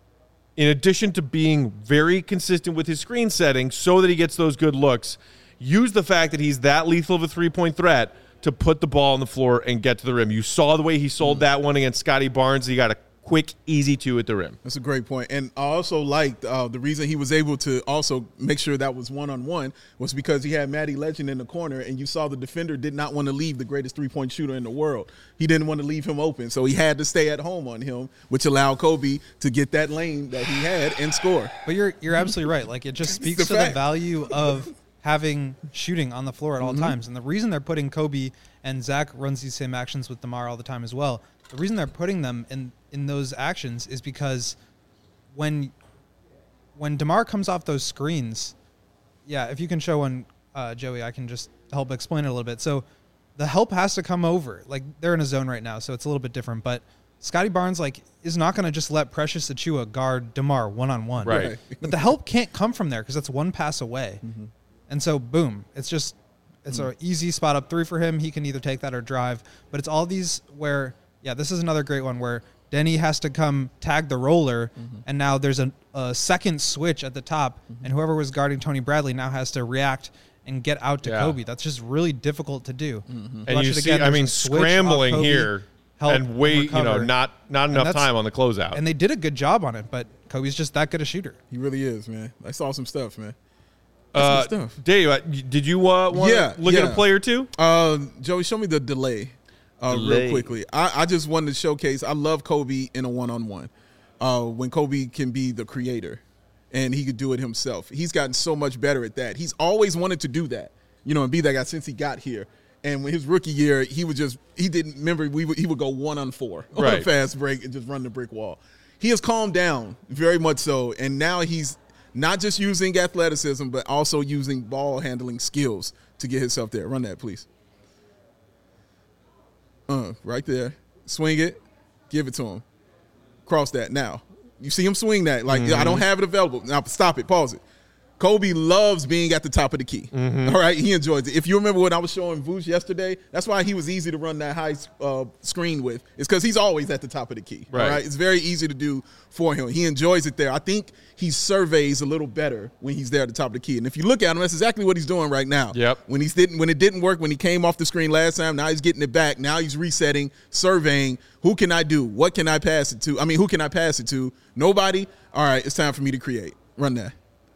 in addition to being very consistent with his screen setting so that he gets those good looks, use the fact that he's that lethal of a three-point threat to put the ball on the floor and get to the rim. You saw the way he sold mm. that one against Scotty Barnes. He got a quick, easy two at the rim. That's a great point. And I also liked uh, the reason he was able to also make sure that was one-on-one was because he had Matty Legend in the corner, and you saw the defender did not want to leave the greatest three-point shooter in the world. He didn't want to leave him open, so he had to stay at home on him, which allowed Kobe to get that lane that he had and score. But you're you're absolutely right. Like, it just speaks the to fact. the value of having shooting on the floor at all mm-hmm. times. And the reason they're putting Kobe, and Zach runs these same actions with DeMar all the time as well, the reason they're putting them in, in those actions is because when when DeMar comes off those screens, yeah, if you can show one, uh, Joey, I can just help explain it a little bit. So the help has to come over. Like, they're in a zone right now, so it's a little bit different. But Scotty Barnes, like, is not going to just let Precious Achiuwa guard DeMar one-on-one. Right. But the help can't come from there because that's one pass away. Mm-hmm. And so, boom, it's just it's mm. an easy spot up three for him. He can either take that or drive. But it's all these where, yeah, this is another great one where Denny has to come tag the roller, mm-hmm. and now there's a, a second switch at the top, mm-hmm. and whoever was guarding Tony Bradley now has to react and get out to yeah. Kobe. That's just really difficult to do. Mm-hmm. And you see, again, I mean, scrambling Kobe, here and wait, you know, not not enough time on the closeout. And they did a good job on it, but Kobe's just that good a shooter. He really is, man. I saw some stuff, man. Uh, stuff. Dave, uh, did you uh, want to yeah, look yeah. at a play or two? Uh, Joey, show me the delay, uh, delay. real quickly. I, I just wanted to showcase, I love Kobe in a one-on-one. Uh, when Kobe can be the creator and he could do it himself. He's gotten so much better at that. He's always wanted to do that, you know, and be that guy since he got here. And when his rookie year, he would just he didn't remember we would, he would go one on four on Right. a fast break and just run the brick wall. He has calmed down very much so, and now he's not just using athleticism, but also using ball handling skills to get himself there. Run that, please. Uh, right there. Swing it. Give it to him. Cross that. Now, you see him swing that. Like, Mm-hmm. I don't have it available. Now, stop it. Pause it. Kobe loves being at the top of the key. Mm-hmm. All right? He enjoys it. If you remember what I was showing Vooch yesterday, that's why he was easy to run that high uh, screen with. It's because he's always at the top of the key. Right. All right? It's very easy to do for him. He enjoys it there. I think he surveys a little better when he's there at the top of the key. And if you look at him, that's exactly what he's doing right now. Yep. When he's didn't when it didn't work, when he came off the screen last time, now he's getting it back. Now he's resetting, surveying. Who can I do? What can I pass it to? I mean, who can I pass it to? Nobody? All right, it's time for me to create. Run that.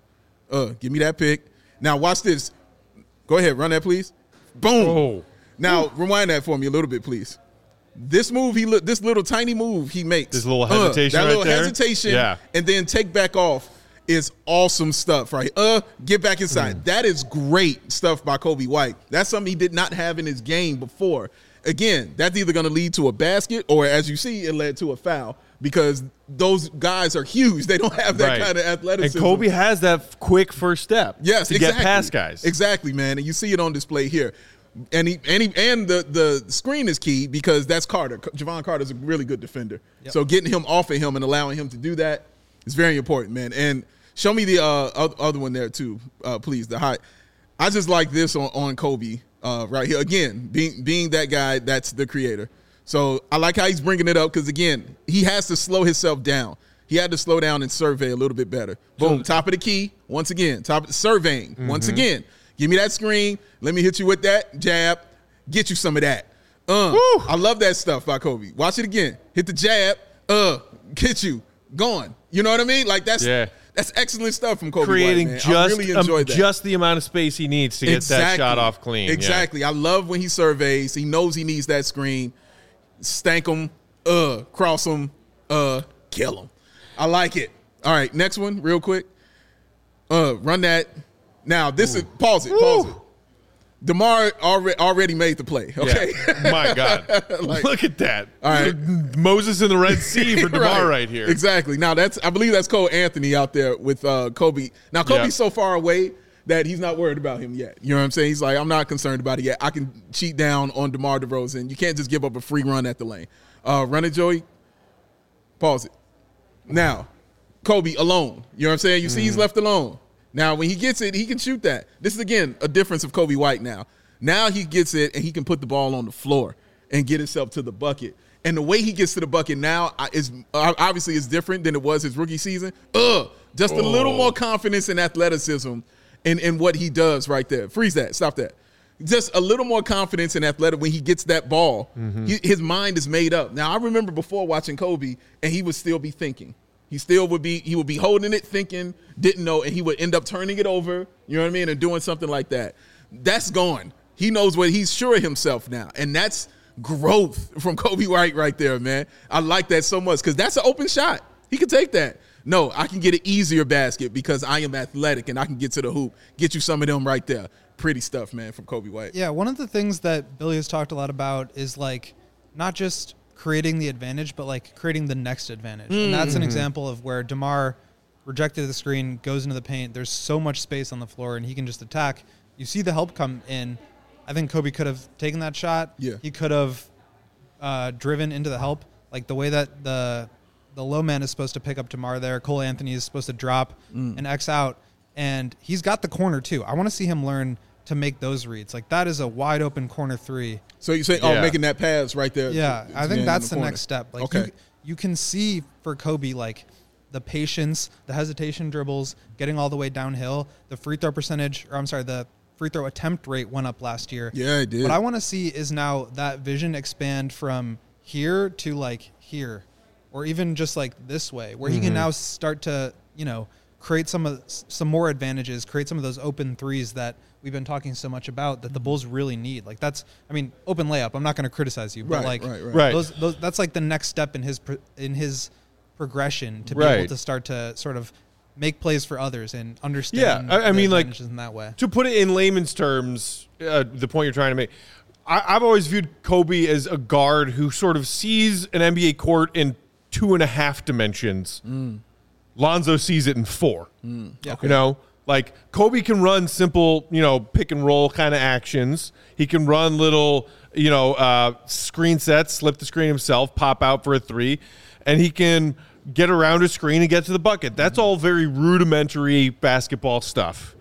Uh, give me that pick. Now watch this. Go ahead, run that, please. Boom. Oh. Now rewind that for me a little bit, please. This move, he look. This little tiny move he makes. This little hesitation Uh, that right little there? hesitation. Yeah. And then take back off is awesome stuff, right? Uh, get back inside. Mm. That is great stuff by Kobe White. That's something he did not have in his game before. Again, that's either going to lead to a basket or, as you see, it led to a foul because those guys are huge. They don't have that Right. kind of athleticism. And Kobe has that f- quick first step. Yes, to exactly. get past guys. Exactly, man. And you see it on display here. And he and he, and the the screen is key because that's Carter. Javon Carter's a really good defender. Yep. So getting him off of him and allowing him to do that is very important, man. And show me the uh, other one there too, uh, please. The high. I just like this on, on Kobe uh, right here. Again, being being that guy, that's the creator. So I like how he's bringing it up because again, he has to slow himself down. He had to slow down and survey a little bit better. Boom, top of the key once again. Top of surveying once again. Give me that screen. Let me hit you with that jab. Get you some of that. Uh, Woo. I love that stuff by Kobe. Watch it again. Hit the jab. Uh, get you. Gone. You know what I mean? Like that's Yeah. that's excellent stuff from Kobe Creating White, man. just I really um, enjoyed that. just the amount of space he needs to get that shot off clean. Yeah. Exactly. I love when he surveys. He knows he needs that screen. Stank him. Uh, cross him. Uh, kill him. I like it. All right, next one, real quick. Uh, run that. Now this is pause it. Pause it. DeMar already already made the play. Okay. Yeah. My God. Like- Look at that. All right. Moses in the Red Sea for DeMar right, here. Exactly. Now that's I believe that's Cole Anthony out there with uh, Kobe. Now Kobe's Yeah. so far away that he's not worried about him yet. You know what I'm saying? He's like, I'm not concerned about it yet. I can cheat down on DeMar DeRozan. You can't just give up a free run at the lane. Uh, run it, Joey. Pause it. Now, Kobe alone. You know what I'm saying? You see he's left alone. Now, when he gets it, he can shoot that. This is, again, a difference of Kobe White now. Now he gets it, and he can put the ball on the floor and get himself to the bucket. And the way he gets to the bucket now is obviously is different than it was his rookie season. Ugh, just a little more confidence and athleticism in, in what he does right there. Freeze that. Stop that. Just a little more confidence and athletic when he gets that ball. He, his mind is made up. Now, I remember before watching Kobe, and he would still be thinking. He still would be, he would be holding it, thinking, didn't know, and he would end up turning it over, you know what I mean, and doing something like that. That's gone. He knows what, he's sure of himself now, and that's growth from Kobe White right there, man. I like that so much because that's an open shot. He can take that. No, I can get an easier basket because I am athletic and I can get to the hoop, get you some of them right there. Pretty stuff, man, from Kobe White. Yeah, one of the things that Billy has talked a lot about is like not just creating the advantage, but like creating the next advantage. Mm. And that's an example of where DeMar rejected the screen, goes into the paint. There's so much space on the floor, and he can just attack. You see the help come in. I think Kobe could have taken that shot. Yeah. He could have uh, driven into the help. Like the way that the the low man is supposed to pick up DeMar there. Cole Anthony is supposed to drop mm. and X out. And he's got the corner, too. I want to see him learn to make those reads. Like, that is a wide open corner three. So you say, Yeah. oh, making that pass right there. Yeah, to- I to think the that's the, corner. next step. Like, Okay. you, you can see for Kobe, like, the patience, the hesitation dribbles, getting all the way downhill. The free throw percentage, or I'm sorry, the free throw attempt rate went up last year. Yeah, it did. What I want to see is now that vision expand from here to, like, here. Or even just, like, this way, where mm-hmm. he can now start to, you know, create some of some more advantages, create some of those open threes that we've been talking so much about that the Bulls really need. Like that's, I mean, open layup. I'm not going to criticize you, but Right, like, right, right. Right. Those, those, that's like the next step in his pro- in his progression to be Right. able to start to sort of make plays for others and understand. Yeah, I- I the mean, like, advantages in that way. To put it in layman's terms, uh, the point you're trying to make, I, I've always viewed Kobe as a guard who sort of sees an N B A court in two and a half dimensions. Mm. Lonzo sees it in four. Mm. Yeah. You know, like Kobe can run simple, you know, pick and roll kind of actions. He can run little, you know, uh, screen sets, slip the screen himself, pop out for a three, and he can get around a screen and get to the bucket. That's all very rudimentary basketball stuff.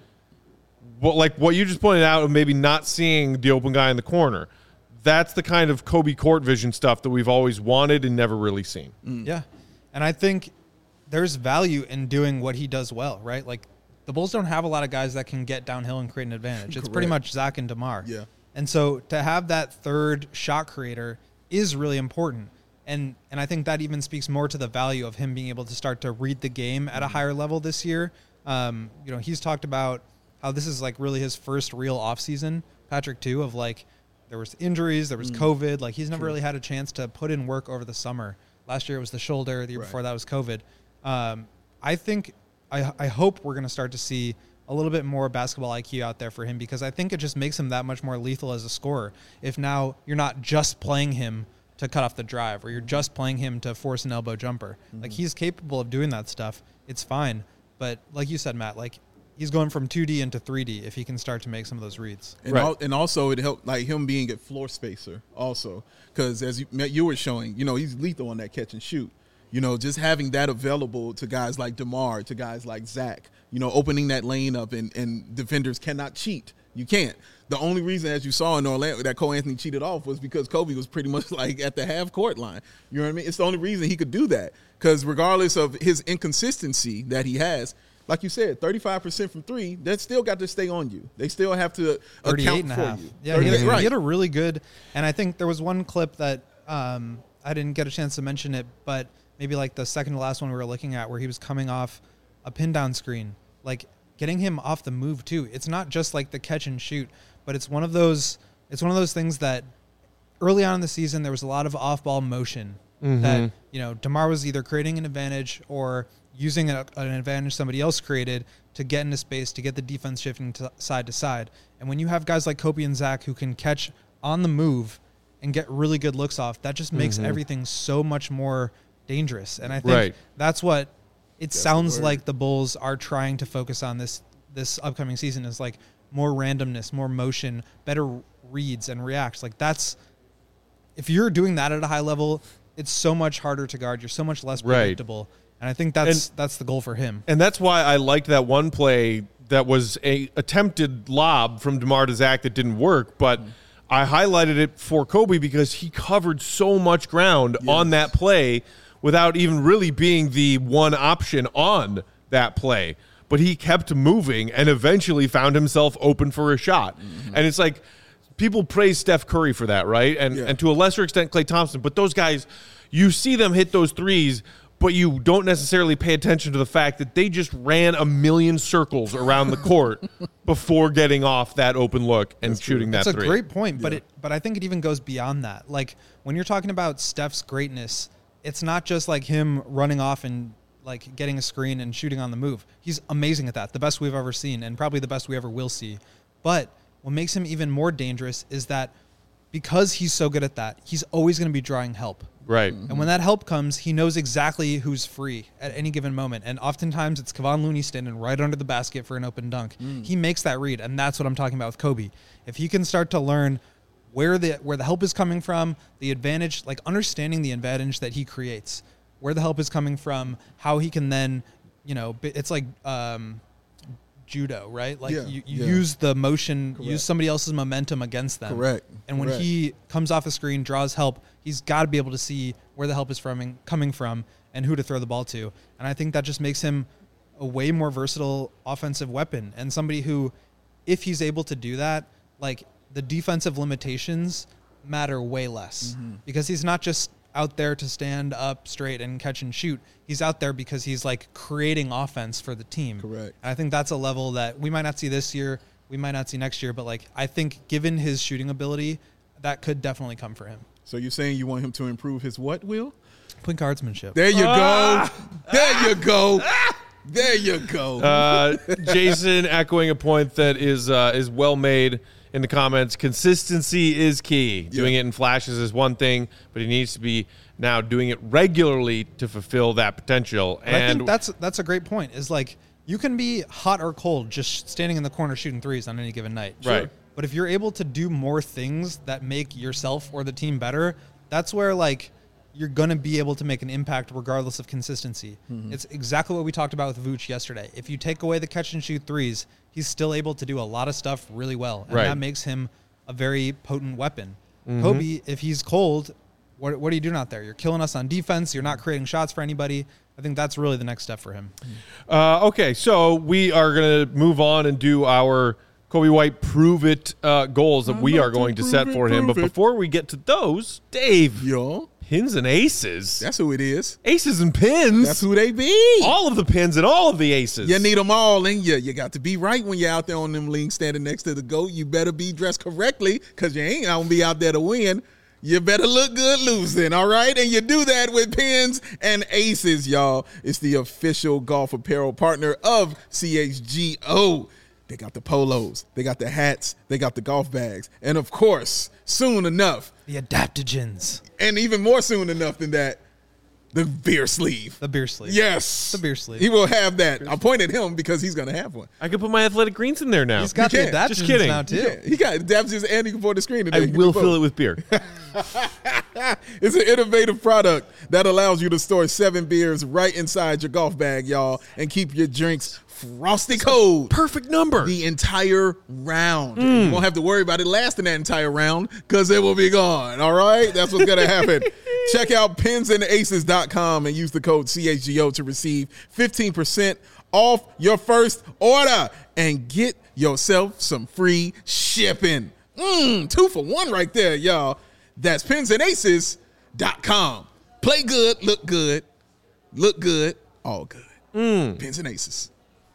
Well, like what you just pointed out of maybe not seeing the open guy in the corner. That's the kind of Kobe court vision stuff that we've always wanted and never really seen. Mm. Yeah. And I think there's value in doing what he does well, right? Like the Bulls don't have a lot of guys that can get downhill and create an advantage. It's pretty much Zach and DeMar. Yeah. And so to have that third shot creator is really important. And and I think that even speaks more to the value of him being able to start to read the game at a higher level this year. Um, you know, he's talked about how this is like really his first real offseason, Patrick too, of like there was injuries, there was mm. COVID. Like he's never True. really had a chance to put in work over the summer. Last year it was the shoulder. The year right. before that was COVID. Um, I think, I, I hope we're going to start to see a little bit more basketball I Q out there for him, because I think it just makes him that much more lethal as a scorer. If now you're not just playing him to cut off the drive, or you're just playing him to force an elbow jumper. Mm-hmm. Like he's capable of doing that stuff. It's fine. But like you said, Matt, like he's going from two D into three D if he can start to make some of those reads. And, right. al- and also it helped like him being a floor spacer also, because as you, you were showing, you know, he's lethal on that catch and shoot. You know, just having that available to guys like DeMar, to guys like Zach, you know, opening that lane up, and, and defenders cannot cheat. You can't. The only reason, as you saw in Orlando, that Cole Anthony cheated off was because Kobe was pretty much like at the half court line. You know what I mean? It's the only reason he could do that, because regardless of his inconsistency that he has, like you said, thirty-five percent from three, that still got to stay on you. They still have to account and a for half. you. Yeah, he had, right. he had a really good, and I think there was one clip that um, I didn't get a chance to mention it, but maybe like the second to last one we were looking at, where he was coming off a pin down screen, like getting him off the move too. It's not just like the catch and shoot, but it's one of those, it's one of those things that early on in the season, there was a lot of off ball motion mm-hmm. that, you know, DeMar was either creating an advantage or using a, an advantage somebody else created to get into space, to get the defense shifting to side to side. And when you have guys like Kobe and Zach who can catch on the move and get really good looks off, that just makes mm-hmm. everything so much more dangerous. And I think right. that's what it that's sounds the like the Bulls are trying to focus on this this upcoming season, is like more randomness, more motion, better reads and reacts. Like that's, if you're doing that at a high level, it's so much harder to guard. You're so much less predictable. Right. And I think that's and, that's the goal for him. And that's why I liked that one play that was a attempted lob from DeMar to Zach that didn't work, but mm-hmm. I highlighted it for Kobe because he covered so much ground yes. on that play without even really being the one option on that play. But he kept moving and eventually found himself open for a shot. Mm-hmm. And it's like people praise Steph Curry for that, right? And yeah. and to a lesser extent Klay Thompson. But those guys, you see them hit those threes, but you don't necessarily pay attention to the fact that they just ran a million circles around the court before getting off that open look and That's shooting true. that That's three. That's a great point, but yeah. it but I think it even goes beyond that. Like when you're talking about Steph's greatness, it's not just like him running off and like getting a screen and shooting on the move. He's amazing at that, the best we've ever seen, and probably the best we ever will see. But what makes him even more dangerous is that because he's so good at that, he's always going to be drawing help. Right. And when that help comes, he knows exactly who's free at any given moment. And oftentimes it's Kevon Looney standing right under the basket for an open dunk. Mm. He makes that read, and that's what I'm talking about with Kobe. If he can start to learn where the where the help is coming from, the advantage, like understanding the advantage that he creates, where the help is coming from, how he can then, you know, it's like um, judo, right? Like yeah, you, you yeah. use the motion, Correct. use somebody else's momentum against them. Correct. And when Correct. he comes off the screen, draws help, he's got to be able to see where the help is from, coming from, and who to throw the ball to. And I think that just makes him a way more versatile offensive weapon, and somebody who, if he's able to do that, like the defensive limitations matter way less mm-hmm. because he's not just out there to stand up straight and catch and shoot. He's out there because he's like creating offense for the team. Correct. And I think that's a level that we might not see this year, we might not see next year, but like I think given his shooting ability, that could definitely come for him. So you're saying you want him to improve his what, Will? Point guardsmanship. There you ah! go. There you go. There you go. Uh, Jason echoing a point that is uh, is well made in the comments, consistency is key. Yeah. Doing it in flashes is one thing, but he needs to be now doing it regularly to fulfill that potential. But and I think that's that's a great point. Is like you can be hot or cold just standing in the corner shooting threes on any given night. Right. Sure. But if you're able to do more things that make yourself or the team better, that's where like you're going to be able to make an impact regardless of consistency. Mm-hmm. It's exactly what we talked about with Vooch yesterday. If you take away the catch and shoot threes, he's still able to do a lot of stuff really well. And right. that makes him a very potent weapon. Mm-hmm. Kobe, if he's cold, what, what are you doing out there? You're killing us on defense. You're not creating shots for anybody. I think that's really the next step for him. Uh, okay, so we are going to move on and do our Kobe White prove it uh, goals that I'm we about are going to to set prove it, for him. But prove it. before we get to those, Dave, Yo, pins and aces. that's who it is. Aces and pins. That's who they be. All of the pins and all of the aces. You need them all in you. You got to be right when you're out there on them links standing next to the GOAT. You better be dressed correctly because you ain't going to be out there to win. You better look good losing, all right? And you do that with pins and aces, y'all. It's the official golf apparel partner of C H G O. They got the polos, they got the hats, they got the golf bags, and of course, soon enough, The adaptogens. and even more soon enough than that, the beer sleeve. The beer sleeve. Yes. The beer sleeve. He will have that. I pointed him because he's going to have one. I could put my athletic greens in there now. He's got You the can't. adaptogens Just kidding. now, too. Yeah, he got adaptogens and he can put the screen in there. I You can will do fill both. it with beer. It's an innovative product that allows you to store seven beers right inside your golf bag, y'all, and keep your drinks frosty cold Perfect number. the entire round. You won't have to worry about it lasting that entire round because it will be gone, all right? That's what's going to happen. Check out pins and aces dot com and use the code C H G O to receive fifteen percent off your first order and get yourself some free shipping. Mm, two for one right there, y'all. That's pins and aces dot com. Play good, look good, look good, all good. Mm. Pins and Aces.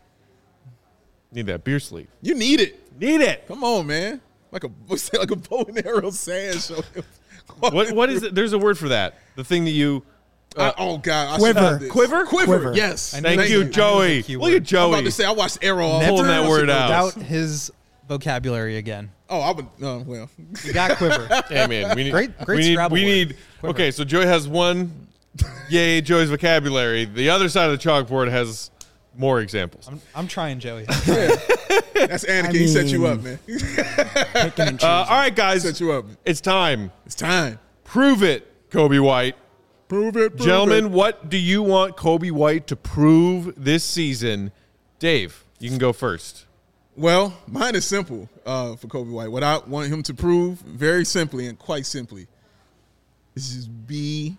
Need that beer sleeve. You need it. Need it. Come on, man. Like a what's that, like a bow and arrow sand show. What what is it? There's a word for that. The thing that you Uh, oh God, I Quiver. should know this. Quiver? Quiver. Quiver. Yes. Thank you, I knew Joey. it was a keyword. Look at I'm Joey. about to say I watched Arrow. all Pulling the that time. word out. Doubt his vocabulary again. Oh, I would. Oh well. You got quiver. Hey man, we need Great- great we need, Scrabble we word. need Quiver. okay, so Joey has one yay, Joey's vocabulary. The other side of the chalkboard has more examples. I'm, I'm trying, Joey. That's Anakin. I he set you mean- up, man. Picking and Uh, all choosing. right, guys. Set you up. It's time. It's time. Prove it, Kobe White. Prove it, prove Gentlemen, it. what do you want Kobe White to prove this season? Dave, you can go first. Well, mine is simple uh, for Kobe White. What I want him to prove, very simply and quite simply, is just be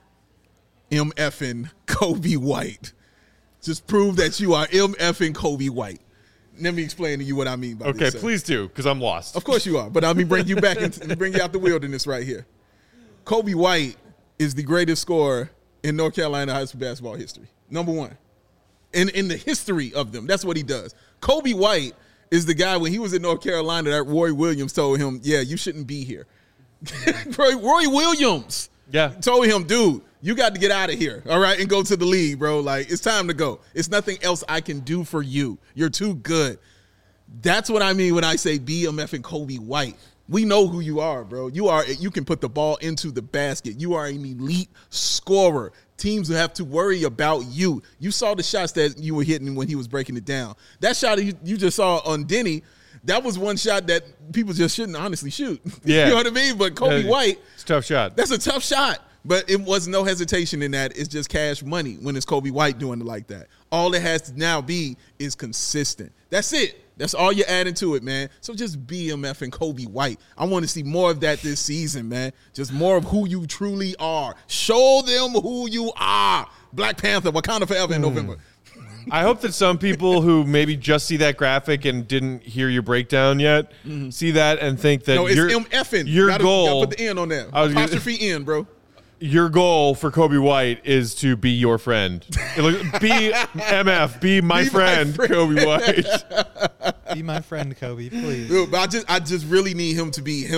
MFing Kobe White. Just prove that you are MFing Kobe White. Let me explain to you what I mean by Okay, this. sir. please do, because I'm lost. Of course you are, but let me bring you back and bring you out the wilderness right here. Kobe White is the greatest scorer in North Carolina high school basketball history. Number one. In in the history of them. That's what he does. Kobe White is the guy, when he was in North Carolina, that Roy Williams told him, yeah, you shouldn't be here. Roy, Roy Williams Yeah. told him, dude, you got to get out of here, all right, and go to the league, bro. Like, it's time to go. It's nothing else I can do for you. You're too good. That's what I mean when I say be a effing Kobe White. We know who you are, bro. You are. You can put the ball into the basket. You are an elite scorer. Teams have to worry about you. You saw the shots that you were hitting when he was breaking it down. That shot you, you just saw on Denny, that was one shot that people just shouldn't honestly shoot. Yeah. You know what I mean? But Kobe Yeah, White, It's a tough shot. that's a tough shot. But it was no hesitation in that. It's just cash money when it's Kobe White doing it like that. All it has to now be is consistent. That's it. That's all you're adding to it, man. So just be M F and Kobe White. I want to see more of that this season, man. Just more of who you truly are. Show them who you are. Black Panther, Wakanda Forever in November. I hope that some people who maybe just see that graphic and didn't hear your breakdown yet see that and think that No, it's your, MFing. your gotta, goal Gotta put the N on there. I was gonna- Apostrophe N, bro. your goal for Kobe White is to be your friend. It look- be M F, be my, Be my friend, friend. Kobe White. Be my friend, Kobe, please. Dude, but I just I just really need him to be him.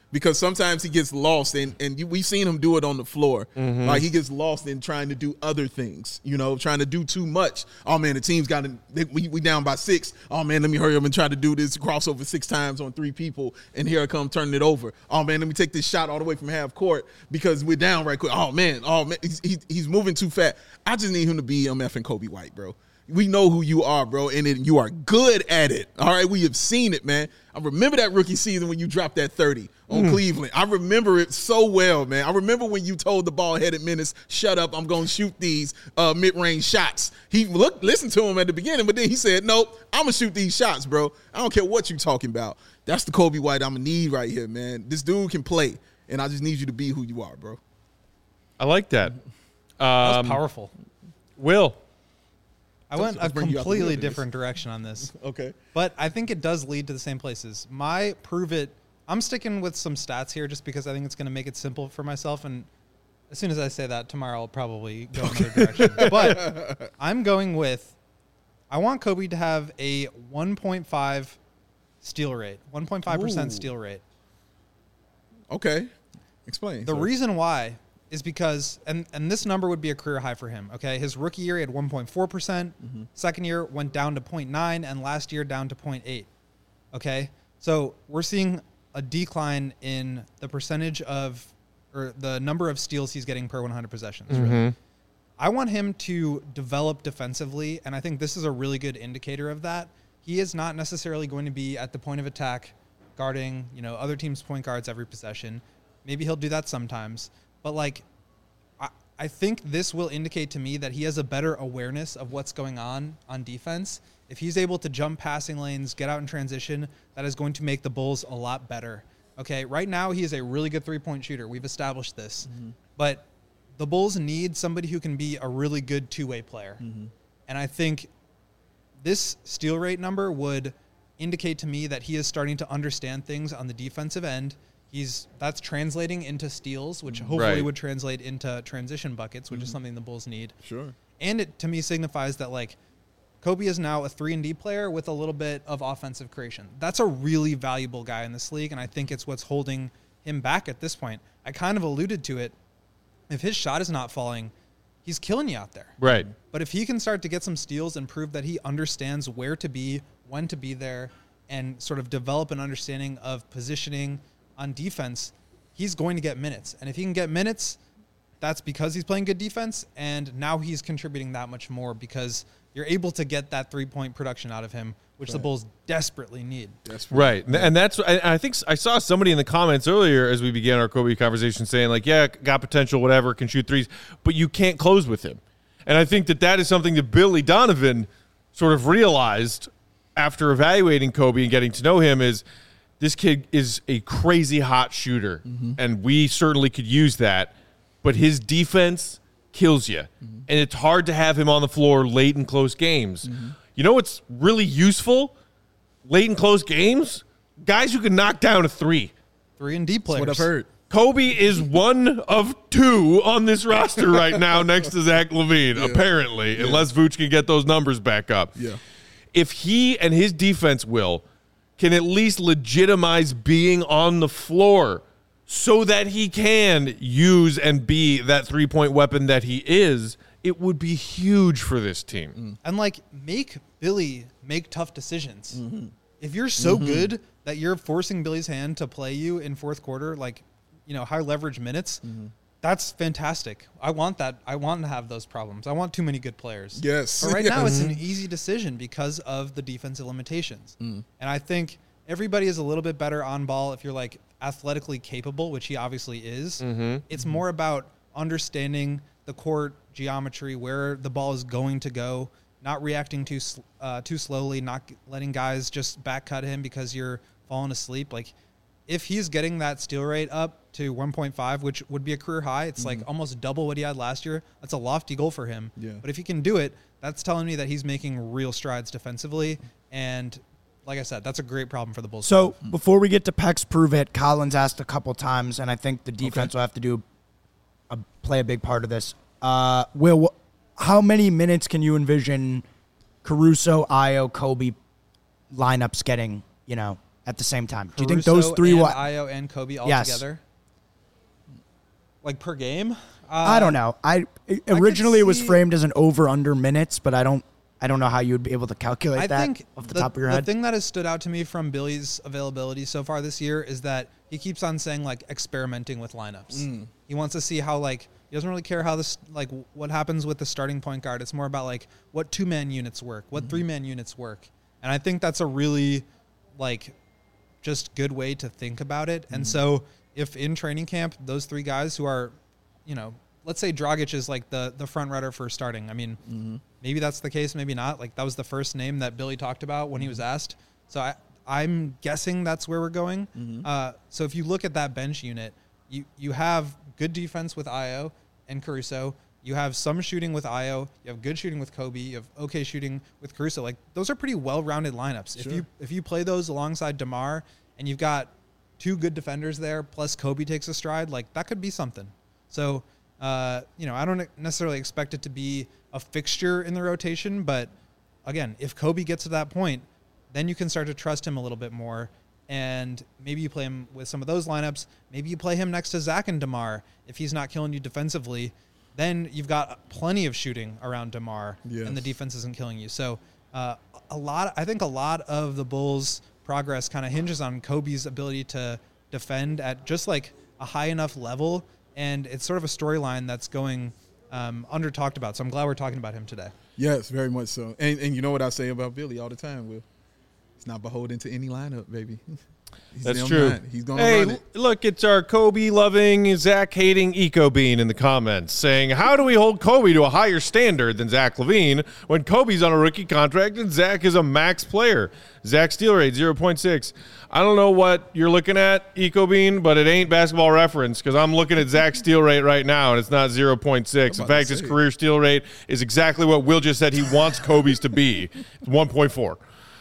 because sometimes he gets lost, and, and you, we've seen him do it on the floor. Mm-hmm. Like he gets lost in trying to do other things, you know, trying to do too much. Oh, man, the team's got to – we we down by six. Oh, man, let me hurry up and try to do this crossover six times on three people, and here I come turning it over. Oh, man, let me take this shot all the way from half court because we're down right quick. Oh, man, oh, man, he's, he, he's moving too fast. I just need him to be M F and Kobe White, bro. We know who you are, bro, and it, you are good at it. All right, we have seen it, man. I remember that rookie season when you dropped that thirty on mm. Cleveland. I remember it so well, man. I remember when you told the ball-headed menace, shut up, I'm going to shoot these uh, mid-range shots. He looked, listened to him at the beginning, but then he said, nope, I'm going to shoot these shots, bro. I don't care what you're talking about. That's the Kobe White I'm going to need right here, man. This dude can play, and I just need you to be who you are, bro. I like that. Um, that was powerful. Will. I went a completely different direction on this. Okay. But I think it does lead to the same places. My prove it, I'm sticking with some stats here just because I think it's going to make it simple for myself. And as soon as I say that, tomorrow I'll probably go another direction. But I'm going with, I want Kobe to have a one point five steal rate, one point five percent steal rate. Okay. Explain. The so. reason why is because, and, and this number would be a career high for him, okay? His rookie year, he had one point four percent. Mm-hmm. Second year went down to zero point nine, and last year down to zero point eight, okay? So we're seeing a decline in the percentage of, or the number of steals he's getting per one hundred possessions, mm-hmm. really. I want him to develop defensively, and I think this is a really good indicator of that. He is not necessarily going to be at the point of attack guarding, you know, other teams' point guards every possession. Maybe he'll do that sometimes. But, like, I, I think this will indicate to me that he has a better awareness of what's going on on defense. If he's able to jump passing lanes, get out in transition, that is going to make the Bulls a lot better. Okay, right now he is a really good three-point shooter. We've established this. Mm-hmm. But the Bulls need somebody who can be a really good two-way player. Mm-hmm. And I think this steal rate number would indicate to me that he is starting to understand things on the defensive end. He's that's translating into steals, which hopefully right. would translate into transition buckets, which mm-hmm. is something the Bulls need. Sure. And it, to me, signifies that, like, Kobe is now a three and D player with a little bit of offensive creation. That's a really valuable guy in this league, and I think it's what's holding him back at this point. I kind of alluded to it. If his shot is not falling, he's killing you out there. Right. But if he can start to get some steals and prove that he understands where to be, when to be there, and sort of develop an understanding of positioning on defense, he's going to get minutes. And if he can get minutes, that's because he's playing good defense, and now he's contributing that much more because you're able to get that three-point production out of him, which right. the Bulls desperately need. Desperately. Right. And that's, I think I saw somebody in the comments earlier as we began our Kobe conversation saying, like, yeah, got potential, whatever, can shoot threes, but you can't close with him. And I think that that is something that Billy Donovan sort of realized after evaluating Kobe and getting to know him is, this kid is a crazy hot shooter, mm-hmm. and we certainly could use that, but his defense kills you, mm-hmm. and it's hard to have him on the floor late in close games. Mm-hmm. You know what's really useful late in close games? Guys who can knock down a three. Three and D players. That's what I've heard. Kobe is one of two on this roster right now next to Zach LaVine, yeah. apparently, yeah. unless Vooch can get those numbers back up. Yeah. If he and his defense will can at least legitimize being on the floor so that he can use and be that three-point weapon that he is, it would be huge for this team. And, like, make Billy make tough decisions. Mm-hmm. If you're so mm-hmm. good that you're forcing Billy's hand to play you in fourth quarter, like, you know, high leverage minutes, mm-hmm. that's fantastic. I want that. I want to have those problems. I want too many good players. Yes. But right yes. now it's an easy decision because of the defensive limitations. Mm. And I think everybody is a little bit better on ball if you're, like, athletically capable, which he obviously is. Mm-hmm. It's mm-hmm. more about understanding the court geometry, where the ball is going to go, not reacting too uh, too slowly, not letting guys just back cut him because you're falling asleep. Like, if he's getting that steal rate up to one point five, which would be a career high, it's mm-hmm. like almost double what he had last year. That's a lofty goal for him. Yeah. But if he can do it, that's telling me that he's making real strides defensively. And like I said, that's a great problem for the Bulls. So before we get to Peck's Prove It, Collins asked a couple times, and I think the defense okay. will have to do a, play a big part of this. Uh, Will, how many minutes can you envision Caruso, Ayo, Kobe lineups getting, you know, at the same time? Do you Caruso think those three and will? Io and Kobe all Yes. together? Like per game? Uh, I don't know. I originally it was see- framed as an over under minutes, but I don't. I don't know how you would be able to calculate I that think off the, the, top of your the head. thing that has stood out to me from Billy's availability so far this year is that he keeps on saying like experimenting with lineups. Mm. He wants to see how like he doesn't really care how this like what happens with the starting point guard. It's more about like what two man units work, what Mm-hmm. three man units work, and I think that's a really like just good way to think about it. Mm-hmm. And so if in training camp those three guys who are, you know, let's say Dragic is like the the front runner for starting. I mean, Mm-hmm. maybe that's the case, maybe not. Like that was the first name that Billy talked about when he was asked. So I I'm guessing that's where we're going. Mm-hmm. Uh, so if you look at that bench unit, you you have good defense with Io and Caruso. You have some shooting with Io. You have good shooting with Kobe. You have okay shooting with Caruso. Like those are pretty well-rounded lineups. If Sure. you if you play those alongside DeMar and you've got two good defenders there, plus Kobe takes a stride, like that could be something. So, uh, you know, I don't necessarily expect it to be a fixture in the rotation, but again, if Kobe gets to that point, then you can start to trust him a little bit more. And maybe you play him with some of those lineups. Maybe you play him next to Zach and DeMar if he's not killing you defensively. Then you've got plenty of shooting around DeMar, Yes. and the defense isn't killing you. So uh, a lot, I think a lot of the Bulls' progress kind of hinges on Kobe's ability to defend at just like a high enough level. And it's sort of a storyline that's going um, under talked about. So I'm glad we're talking about him today. Yes, very much so. And and you know what I say about Billy all the time, Will? It's not beholden to any lineup, baby. He's That's them true. nine. He's going to Hey, run it. l- look, it's our Kobe-loving, Zach-hating Eco Bean in the comments saying, how do we hold Kobe to a higher standard than Zach LaVine when Kobe's on a rookie contract and Zach is a max player? Zach steal rate, zero point six. I don't know what you're looking at, Eco Bean, but it ain't Basketball Reference because I'm looking at Zach's steal rate right now, and it's not zero point six. I'm In about to fact, his say. career steal rate is exactly what Will just said he wants Kobe's to be. It's one point four.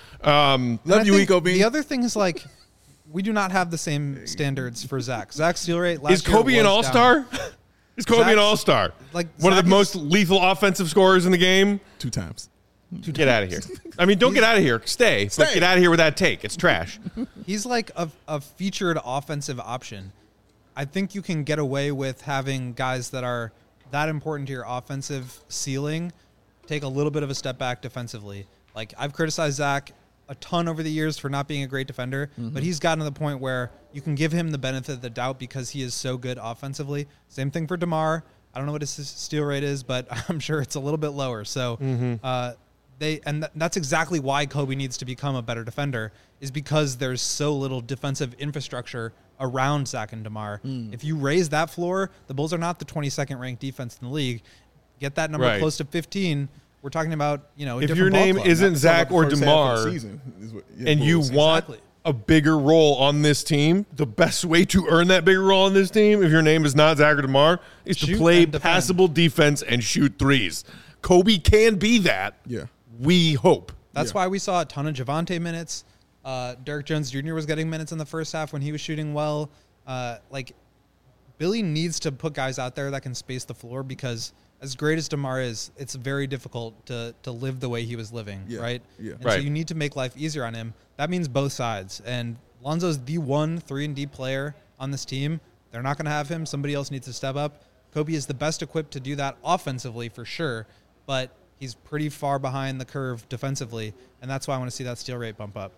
Um, And I Love you, think Eco Bean. The other thing is like, we do not have the same standards for Zach. Zach's steal rate last Is year Kobe an was all-star? down. Is Kobe an Zach's- all-star? like, one of Zach the is- most lethal offensive scorers in the game? Two times. Get out of here. I mean, don't get out of here. Stay. But Stay. get out of here with that take. It's trash. He's like a, a featured offensive option. I think you can get away with having guys that are that important to your offensive ceiling take a little bit of a step back defensively. Like, I've criticized Zach a ton over the years for not being a great defender, but he's gotten to the point where you can give him the benefit of the doubt because he is so good offensively. Same thing for DeMar. I don't know what his steal rate is, but I'm sure it's a little bit lower. So uh, they and th- that's exactly why Kobe needs to become a better defender, is because there's so little defensive infrastructure around Zach and DeMar. If you raise that floor, the Bulls are not the twenty-second ranked defense in the league. Get that number Right. close to fifteen. We're talking about, you know, a If different your ball name club. isn't Talk Zach about the or first half of the DeMar, season is what- yeah, and you Bulls. want Exactly. a bigger role on this team, the best way to earn that bigger role on this team, if your name is not Zach or DeMar, is to Shoot play and defend. passable defense and shoot threes. Kobe can be that. Yeah. We hope. That's Yeah. why we saw a ton of Javante minutes. Uh, Derek Jones Junior was getting minutes in the first half when he was shooting well. Uh, like, Billy needs to put guys out there that can space the floor because as great as DeMar is, it's very difficult to to live the way he was living, Yeah. right? Yeah. And Right. so you need to make life easier on him. That means both sides. And Lonzo's the one three and D player on this team. They're not going to have him. Somebody else needs to step up. Kobe is the best equipped to do that offensively for sure, but he's pretty far behind the curve defensively, and that's why I want to see that steal rate bump up.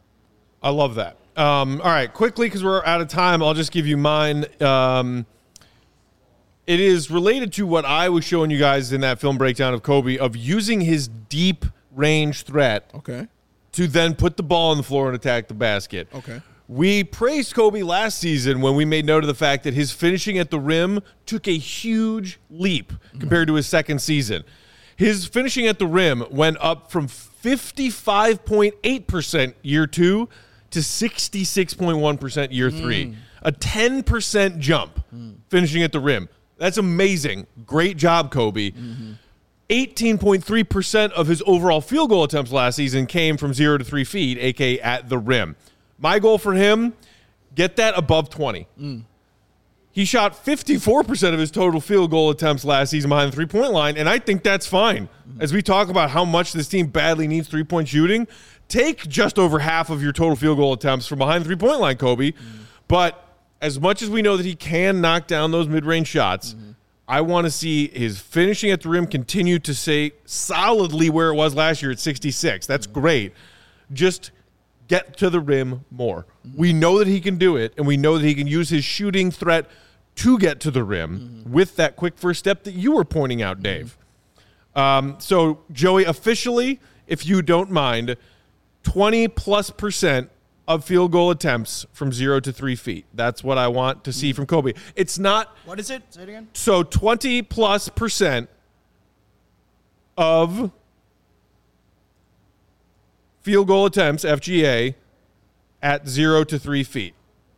I love that. Um, all right, quickly, because we're out of time, I'll just give you mine. Um, it is related to what I was showing you guys in that film breakdown of Kobe, of using his deep range threat Okay. to then put the ball on the floor and attack the basket. Okay. We praised Kobe last season when we made note of the fact that his finishing at the rim took a huge leap compared to his second season. His finishing at the rim went up from fifty-five point eight percent year two to sixty-six point one percent year three. A ten percent jump finishing at the rim. That's amazing. Great job, Kobe. eighteen point three percent of his overall field goal attempts last season came from zero to three feet, a k a at the rim. My goal for him, get that above twenty. He shot fifty-four percent of his total field goal attempts last season behind the three-point line, and I think that's fine. As we talk about how much this team badly needs three-point shooting, take just over half of your total field goal attempts from behind the three-point line, Kobe. Mm-hmm. But as much as we know that he can knock down those mid-range shots, mm-hmm. I want to see his finishing at the rim continue to stay solidly where it was last year at sixty-six. That's mm-hmm. great. Just get to the rim more. Mm-hmm. We know that he can do it, and we know that he can use his shooting threat to get to the rim mm-hmm. with that quick first step that you were pointing out, Dave. Mm-hmm. Um, so, Joey, officially, if you don't mind, twenty plus percent of field goal attempts from zero to three feet. That's what I want to see from Kobe. It's not. What is it? Say it again. So twenty plus percent of field goal attempts, F G A, at zero to three feet.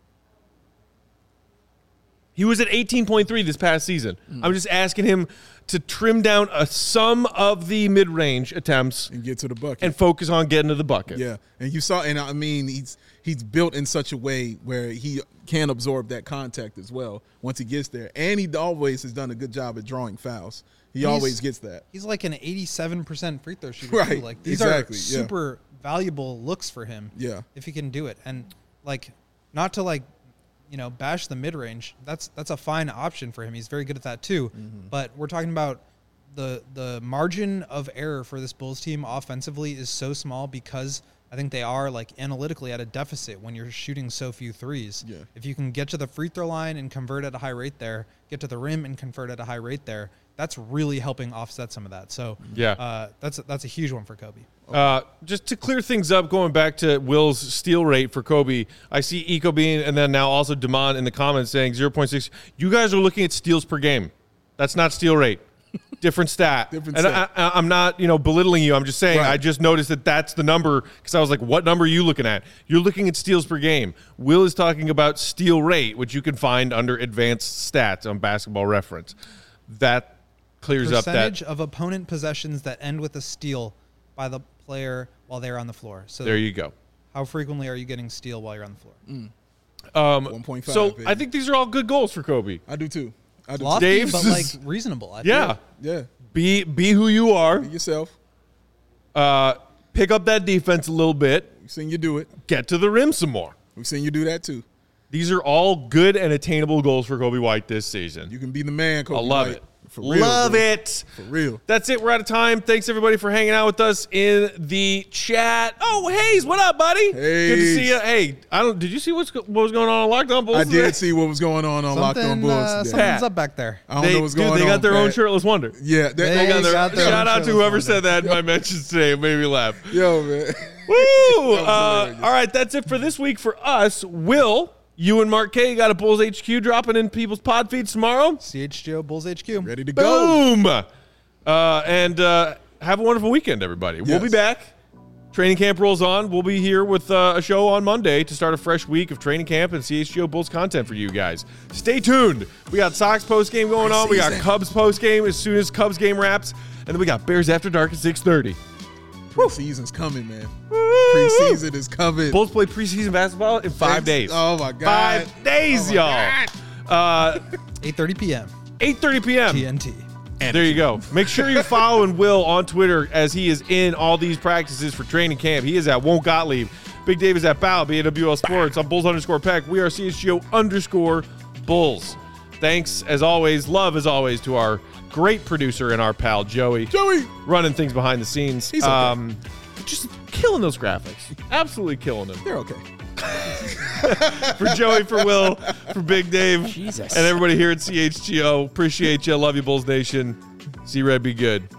He was at eighteen point three this past season. Mm. I'm just asking him to trim down a sum of the mid-range attempts and get to the bucket and focus on getting to the bucket. Yeah, and you saw, and I mean, he's he's built in such a way where he can absorb that contact as well once he gets there, and he always has done a good job at drawing fouls. He he's, always gets that. He's like an eighty-seven percent free throw shooter. Right, too. Like these exactly, are super yeah. valuable looks for him. Yeah, if he can do it, and like not to like. you know, bash the mid-range. That's that's a fine option for him. He's very good at that too. Mm-hmm. But we're talking about the the margin of error for this Bulls team offensively is so small because I think they are like analytically at a deficit when you're shooting so few threes. Yeah. If you can get to the free throw line and convert at a high rate there, get to the rim and convert at a high rate there, that's really helping offset some of that. So yeah, uh, that's a, that's a huge one for Kobe. Uh, just to clear things up, going back to Will's steal rate for Kobe, I see Eco Bean and then now also Damon in the comments saying zero point six. You guys are looking at steals per game. That's not steal rate. Different stat. Different and stat. I, I, I'm not, you know, belittling you. I'm just saying Right. I just noticed that that's the number because I was like, what number are you looking at? You're looking at steals per game. Will is talking about steal rate, which you can find under advanced stats on Basketball Reference. That clears up that. Percentage of opponent possessions that end with a steal by the player while they're on the floor. So there you go. How frequently are you getting steal while you're on the floor? Mm. Um, one point five. So baby. I think these are all good goals for Kobe. I do too. I do Lofty, Dave's but is- like reasonable. I Yeah. feel. too. Yeah. Be be who you are. Be yourself. Uh, pick up that defense a little bit. We've seen you do it. Get to the rim some more. We've seen you do that too. These are all good and attainable goals for Kobe White this season. You can be the man, Kobe I love White. it. For real, love bro. it. For real. That's it. We're out of time. Thanks, everybody, for hanging out with us in the chat. Oh, Hayes, what up, buddy? Good to Hayes. see you. Hey, I don't. Did you see what's, what was going on on Locked On Bulls I today? did see what was going on on Locked On Something, Bulls uh, today. something's Pat. up back there. I don't They, know what's dude, going on. they got their own Pat. shirtless wonder. Yeah. They They, got got their- their, Shout out to shirtless whoever wonder. said that in my mentions today. It made me laugh. Yo, man. Woo! That was Uh, hilarious. all right, that's it for this week for us. Will, you and Mark K got a Bulls H Q dropping in people's pod feeds tomorrow? C H G O Bulls H Q. Ready to go. Boom! Uh, and uh, have a wonderful weekend, everybody. We'll be Yes. back. Training camp rolls on. We'll be here with uh, a show on Monday to start a fresh week of training camp and C H G O Bulls content for you guys. Stay tuned. We got Sox post game going on. We got Preseason. Cubs post game as soon as Cubs game wraps, and then we got Bears After Dark at six thirty. Preseason's coming, man. Woo! Preseason is coming. Bulls play preseason basketball in five days. Oh, my God. Five days, Oh, my y'all. Uh, eight thirty p.m. eight thirty p.m. T N T. There you go. Make sure you're following Will on Twitter as he is in all these practices for training camp. He is at Won't Gottlieb. Big Dave is at Bow, B A W L Sports. I'm Bulls underscore Peck. We are C H G O underscore Bulls. Thanks, as always, love as always, to our great producer and our pal, Joey. Joey. Running things behind the scenes. He's okay. Um, just killing those graphics. Absolutely killing them. They're okay. For Joey, for Will, for Big Dave, Jesus. and everybody here at C H G O. Appreciate you. Love you, Bulls Nation. See Red, be good.